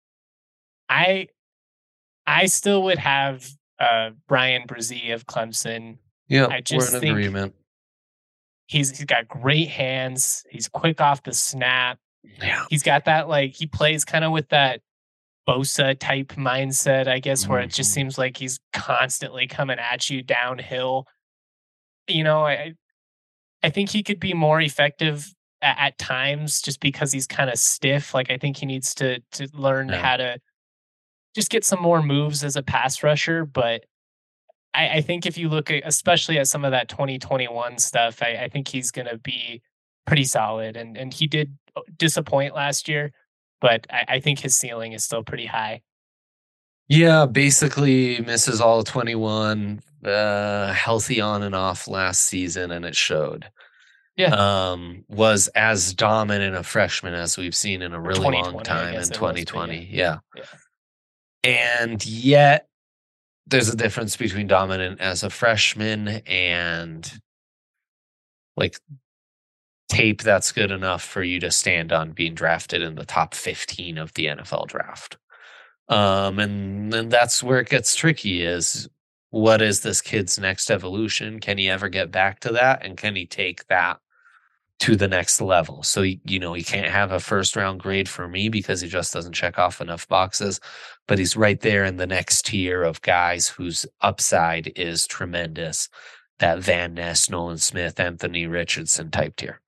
I I still would have Brian Brzee of Clemson. Yep, I we're in just think agreement. he's got great hands. He's quick off the snap. Yeah. He's got that like he plays kind of with that Bosa type mindset, I guess, where it just Mhm. seems like he's constantly coming at you downhill. You know, I think he could be more effective at times just because he's kind of stiff. Like I think he needs to learn Yeah. how to just get some more moves as a pass rusher. But I think if you look at especially at some of that 2021 stuff, I think he's gonna be pretty solid. And he did disappoint last year, but I think his ceiling is still pretty high. Yeah, basically misses all 21, healthy on and off last season, and it showed. Yeah. Was as dominant a freshman as we've seen in a Or really long 2020, I time guess in it was, but yeah. 2020, yeah. Yeah. And yet there's a difference between dominant as a freshman and like tape that's good enough for you to stand on being drafted in the top 15 of the NFL draft. And then that's where it gets tricky is what is this kid's next evolution? Can he ever get back to that? And can he take that to the next level? So, you know, he can't have a first round grade for me because he just doesn't check off enough boxes, but he's right there in the next tier of guys whose upside is tremendous. That Van Ness, Nolan Smith, Anthony Richardson type tier.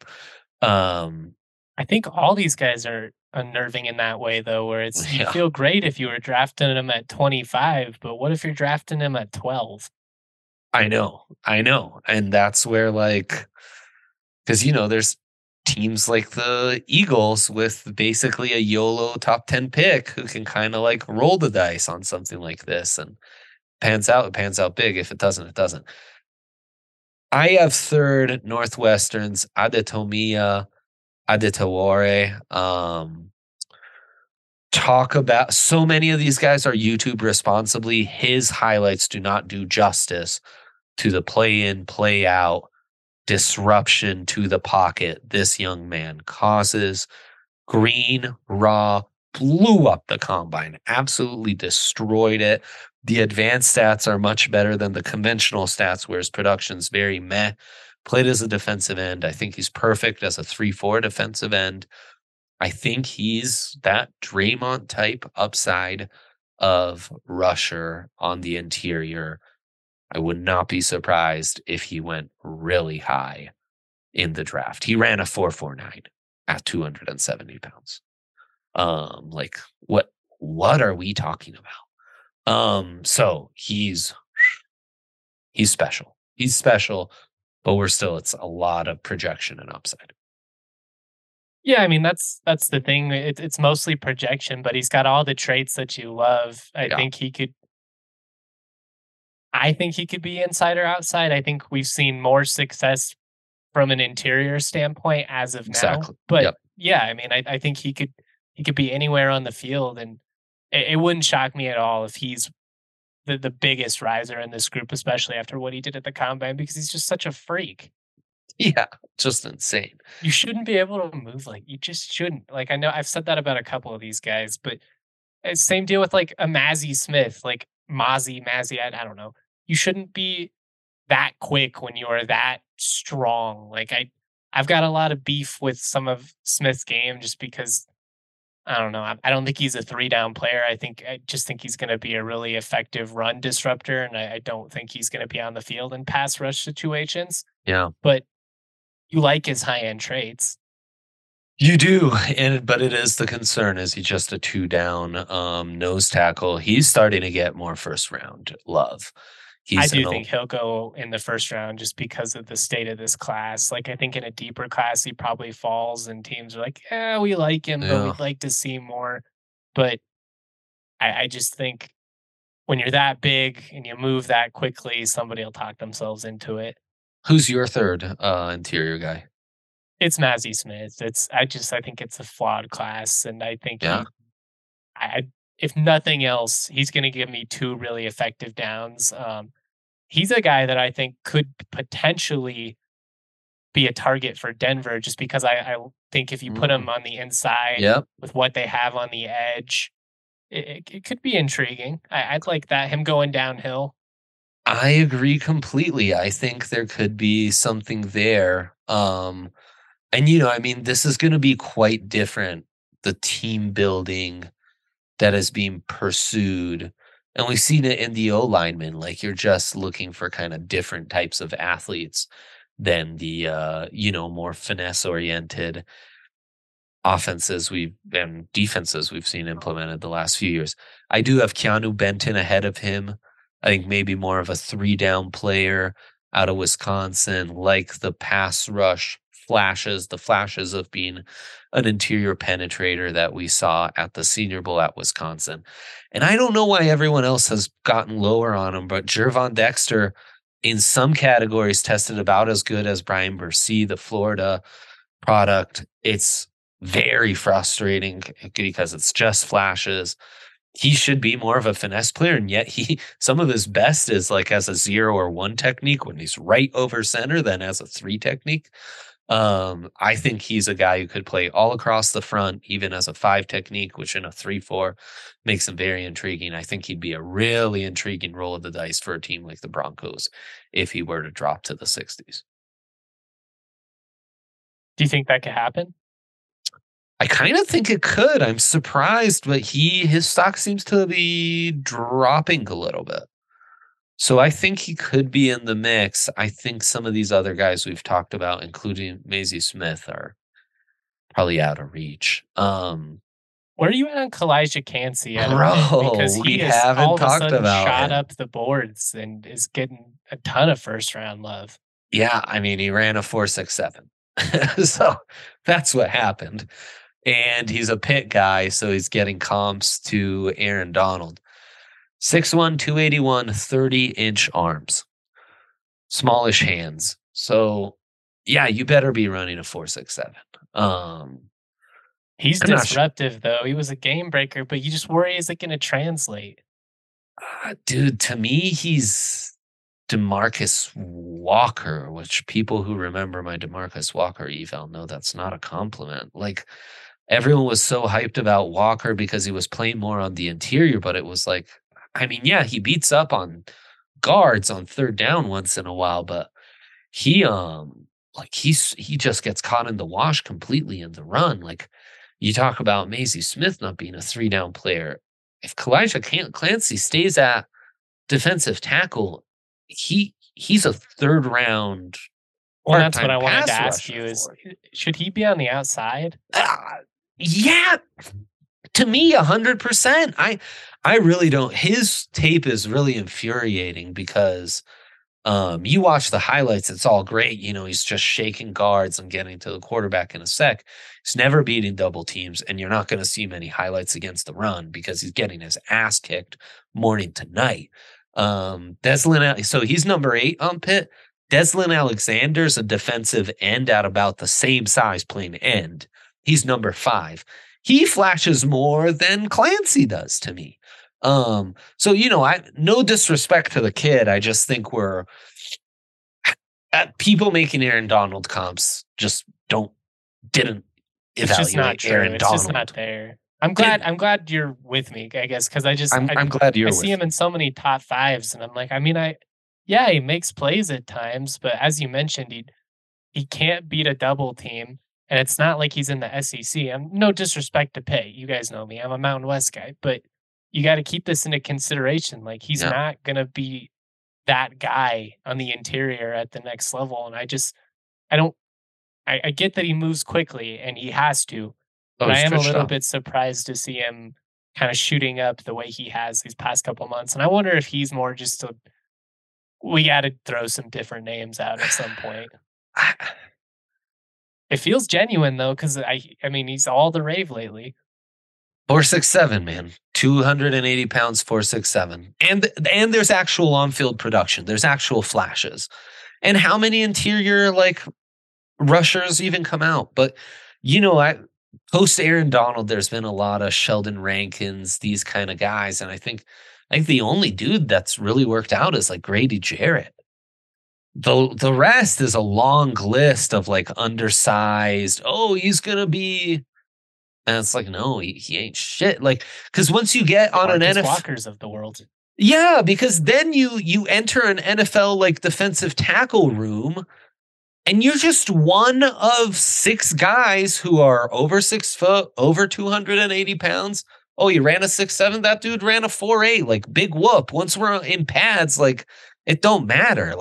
I think all these guys are unnerving in that way, though, where it's you'd Yeah, feel great if you were drafting him at 25, but what if you're drafting him at 12? I know. And that's where like, because, you know, there's teams like the Eagles with basically a YOLO top 10 pick who can kind of like roll the dice on something like this and it pans out big. If it doesn't, it doesn't. I have third Northwestern's Adetomiya Adetawore. Talk about so many of these guys are YouTube responsibly. His highlights do not do justice to the play in, play out disruption to the pocket this young man causes. Green, raw, blew up the combine, absolutely destroyed it. The advanced stats are much better than the conventional stats, where his production's very meh. Played as a defensive end. I think he's perfect as a 3-4 defensive end. I think he's that Draymond type upside of rusher on the interior. I would not be surprised if he went really high in the draft. He ran a 4.49 at 270 pounds. Like what are we talking about? So he's special. He's special, but it's a lot of projection and upside. Yeah, I mean that's the thing. It's mostly projection, but he's got all the traits that you love. Yeah, I think he could be inside or outside. I think we've seen more success from an interior standpoint as of now. exactly. But Yep. yeah, I mean, I think he could be anywhere on the field, and it wouldn't shock me at all if he's the biggest riser in this group, especially after what he did at the combine, because he's just such a freak. Yeah, just insane. You shouldn't be able to move like you just shouldn't. Like I know I've said that about a couple of these guys, but same deal with like a Mazzy Smith, like Mazzy. I don't know. You shouldn't be that quick when you are that strong. I've got a lot of beef with some of Smith's game just because I don't know. I don't think he's a 3 down player. I just think he's going to be a really effective run disruptor, and I don't think he's going to be on the field in pass rush situations. Yeah. But you like his high end traits. You do, but it is the concern. Is he just a 2 down nose tackle? He's starting to get more first round love. I He's in do a think he'll go in the first round just because of the state of this class. Like I think in a deeper class he probably falls, and teams are like, "Yeah, we like him, but yeah. we'd like to see more." But I just think when you're that big and you move that quickly, somebody will talk themselves into it. Who's your third interior guy? It's Mazzy Smith. I think it's a flawed class, and I think Yeah. I if nothing else, he's going to give me 2 really effective downs. He's a guy that I think could potentially be a target for Denver, just because I think if you put Mm. him on the inside Yep. with what they have on the edge, it could be intriguing. I'd like that him going downhill. I agree completely. I think there could be something there. And you know, I mean, this is going to be quite different. The team building that is being pursued. And we've seen it in the O linemen. Like you're just looking for kind of different types of athletes than the more finesse oriented offenses we've and defenses we've seen implemented the last few years. I do have Keanu Benton ahead of him. I think maybe more of a 3 down player out of Wisconsin, like the pass rush flashes, the flashes of being an interior penetrator that we saw at the Senior Bowl at Wisconsin. And I don't know why everyone else has gotten lower on him, but Gervon Dexter in some categories tested about as good as Brian Bursey, the Florida product. It's very frustrating because it's just flashes. he should be more of a finesse player, and yet some of his best is like as a 0 or 1 technique when he's right over center than as a 3 technique. I think he's a guy who could play all across the front, even as a 5 technique, which in a 3-4 makes him very intriguing. I think he'd be a really intriguing roll of the dice for a team like the Broncos if he were to drop to the 60s. Do you think that could happen? I kind of think it could. I'm surprised, but his stock seems to be dropping a little bit. So I think he could be in the mix. I think some of these other guys we've talked about, including Maisie Smith, are probably out of reach. Where are you at on Kalijah Cansey? Bro, we haven't all of a talked sudden about shot him. up the boards and is getting a ton of first round love. Yeah, I mean, he ran a 4.67. So that's what happened. And he's a pit guy, so he's getting comps to Aaron Donald. 6'1", 281, 30-inch arms. Smallish hands. So, yeah, you better be running a 4.67. He's disruptive, though. He was a game breaker, but you just worry, is it going to translate? Dude, to me, he's DeMarcus Walker, which people who remember my DeMarcus Walker eval know that's not a compliment. Like, everyone was so hyped about Walker because he was playing more on the interior, but it was like, I mean, yeah, he beats up on guards on third down once in a while, but he just gets caught in the wash completely in the run. Like, you talk about Maisie Smith not being a 3-down player. If Kalijah Cansey stays at defensive tackle, he's a third round. Well, that's what I wanted to ask you is, should he be on the outside? Yeah, to me, 100%. I really don't. His tape is really infuriating because you watch the highlights, it's all great. You know, he's just shaking guards and getting to the quarterback in a sec. He's never beating double teams, and you're not going to see many highlights against the run because he's getting his ass kicked morning to night. So he's number 8 on Pitt. Deslin Alexander's a defensive end at about the same size playing end. He's number 5. He flashes more than Clancy does to me. So, you know, no disrespect to the kid. I just think people making Aaron Donald comps just didn't evaluate Aaron Donald. It's just not there. I'm glad you're with me, I guess, because I'm glad you're. I see him in so many top 5s, and I'm like, I mean, he makes plays at times, but as you mentioned, he can't beat a double team, and it's not like he's in the SEC. I'm no disrespect to Pitt. You guys know me. I'm a Mountain West guy, but you got to keep this into consideration. Like, he's not going to be that guy on the interior at the next level. And I get that he moves quickly and he has to, but I am a little bit surprised to see him kind of shooting up the way he has these past couple months. And I wonder if he's more just we got to throw some different names out at some point. It feels genuine though, because I mean, he's all the rave lately. 4.67, man. 280 pounds, 4.67. And there's actual on-field production. There's actual flashes. And how many interior rushers even come out? But you know, post Aaron Donald, there's been a lot of Sheldon Rankins, these kind of guys, and I think the only dude that's really worked out is Grady Jarrett. The rest is a long list of undersized. Oh, he's gonna be. And it's no, he ain't shit. Because once you get on an NFL Walkers of the world, yeah, because then you enter an NFL defensive tackle room, and you're just one of 6 guys who are over 6 foot, over 280 pounds. Oh, you ran a 6'7"? That dude ran a 4'8". Big whoop. Once we're in pads, it don't matter.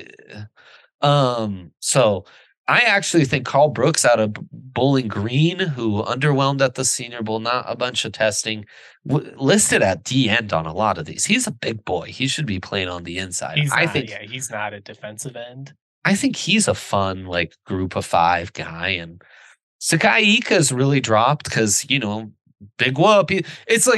So. I actually think Carl Brooks out of Bowling Green, who underwhelmed at the Senior Bowl, not a bunch of testing, listed at D end on a lot of these. He's a big boy. He should be playing on the inside. He's not a defensive end. I think he's a fun group of 5 guy. And Sakai Ika's really dropped because, you know, big whoop. It's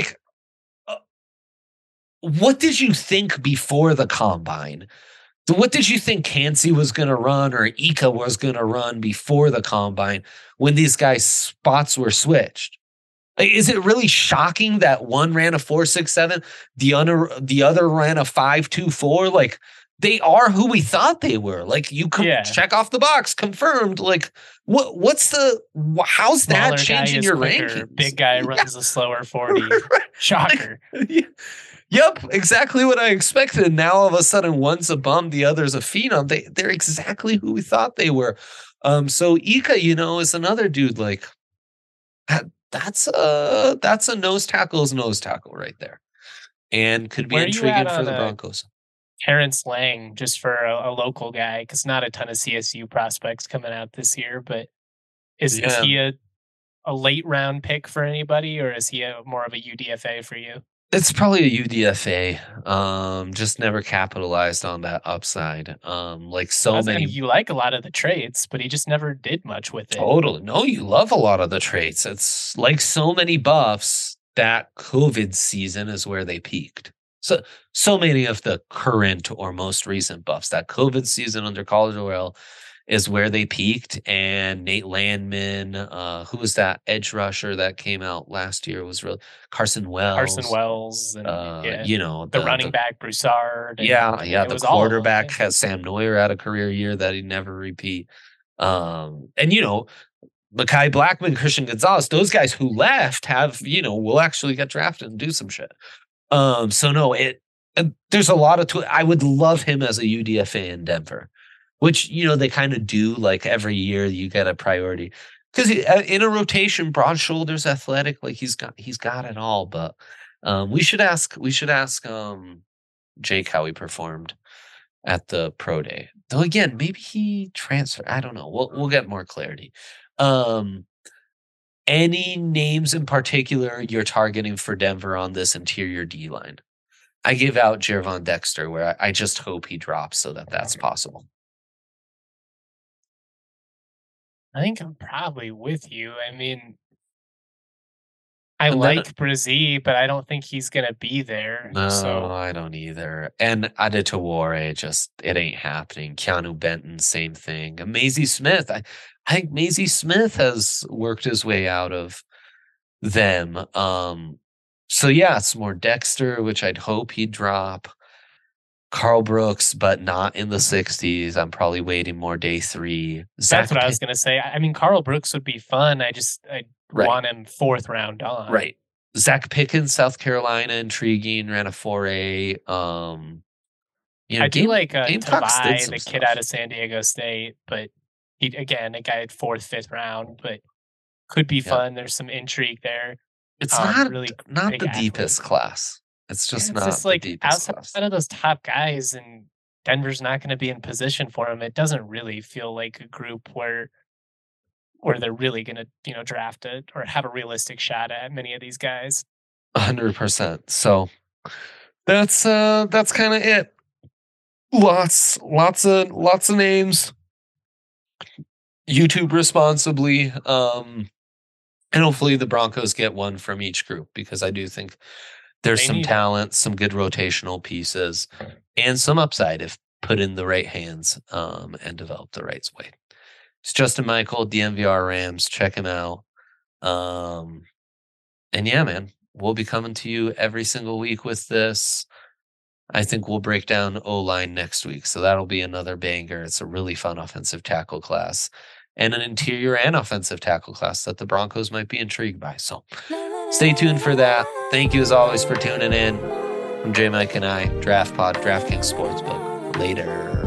what did you think before the combine? What did you think Cansey was going to run or Ika was going to run before the combine when these guys' spots were switched? Like, is it really shocking that one ran a 4.67, the other ran a 5.24? Like, they are who we thought they were. Like, you could check off the box, confirmed. Like, how's Smaller that changing your quicker, rankings? Big guy runs a slower 40. Shocker. Yep, exactly what I expected. Now all of a sudden, one's a bum, the other's a phenom. They're exactly who we thought they were. So Ika, is another dude like that's a nose tackle right there, and could be intriguing for the Broncos. Terrence Lang, just for a local guy, because not a ton of CSU prospects coming out this year, but is he a late round pick for anybody, or is he more of a UDFA for you? It's probably a UDFA. Just never capitalized on that upside. Like so many. You like a lot of the traits, but he just never did much with it. Totally. No, you love a lot of the traits. It's like so many buffs. That COVID season is where they peaked. So many of the current or most recent buffs. That COVID season under College Royale is where they peaked. And Nate Landman, who was that edge rusher that came out last year, was really Carson Wells. And the running back Broussard. The quarterback has Sam Neuer had a career year that he never repeat. Mekhi Blackman, Christian Gonzalez, those guys who left will actually get drafted and do some shit. There's a lot of I would love him as a UDFA in Denver. Which, they kind of do, like every year you get a priority. Because in a rotation, broad shoulders, athletic, like he's got it all. But we should ask Jake how he performed at the pro day. Though again, maybe he transferred. I don't know. We'll get more clarity. Any names in particular you're targeting for Denver on this interior D line? I give out Gervon Dexter, where I just hope he drops so that's possible. I think I'm probably with you. I mean, I like Brazee, but I don't think he's going to be there. No, I don't either. And Adetowaré, it ain't happening. Keanu Benton, same thing. And Maisie Smith. I think Maisie Smith has worked his way out of them. It's more Dexter, which I'd hope he'd drop. Carl Brooks, but not in the 60s. I'm probably waiting more day 3. That's what I was going to say. I mean, Carl Brooks would be fun. I want him 4th round on. Right. Zach Pickens, South Carolina, intriguing. Ran a 4A. I do like Tavai, the kid out of San Diego State, but a guy at 4th, 5th round, but could be fun. There's some intrigue there. It's not the deepest class. It's just outside of those top guys, and Denver's not going to be in position for him. It doesn't really feel like a group where they're really going to draft it or have a realistic shot at many of these guys. 100%. So that's kind of it. Lots of names. YouTube responsibly. And hopefully the Broncos get one from each group, because I do think there's some talent, some good rotational pieces, and some upside if put in the right hands and developed the right way. It's Justin Michael, DNVR Rams. Check him out. And yeah, man, we'll be coming to you every single week with this. I think we'll break down O-line next week, so that'll be another banger. It's a really fun offensive tackle class and an interior and offensive tackle class that the Broncos might be intrigued by. So stay tuned for that. Thank you as always for tuning in. I'm J Mike and I, Draft Pod, DraftKings Sportsbook. Later.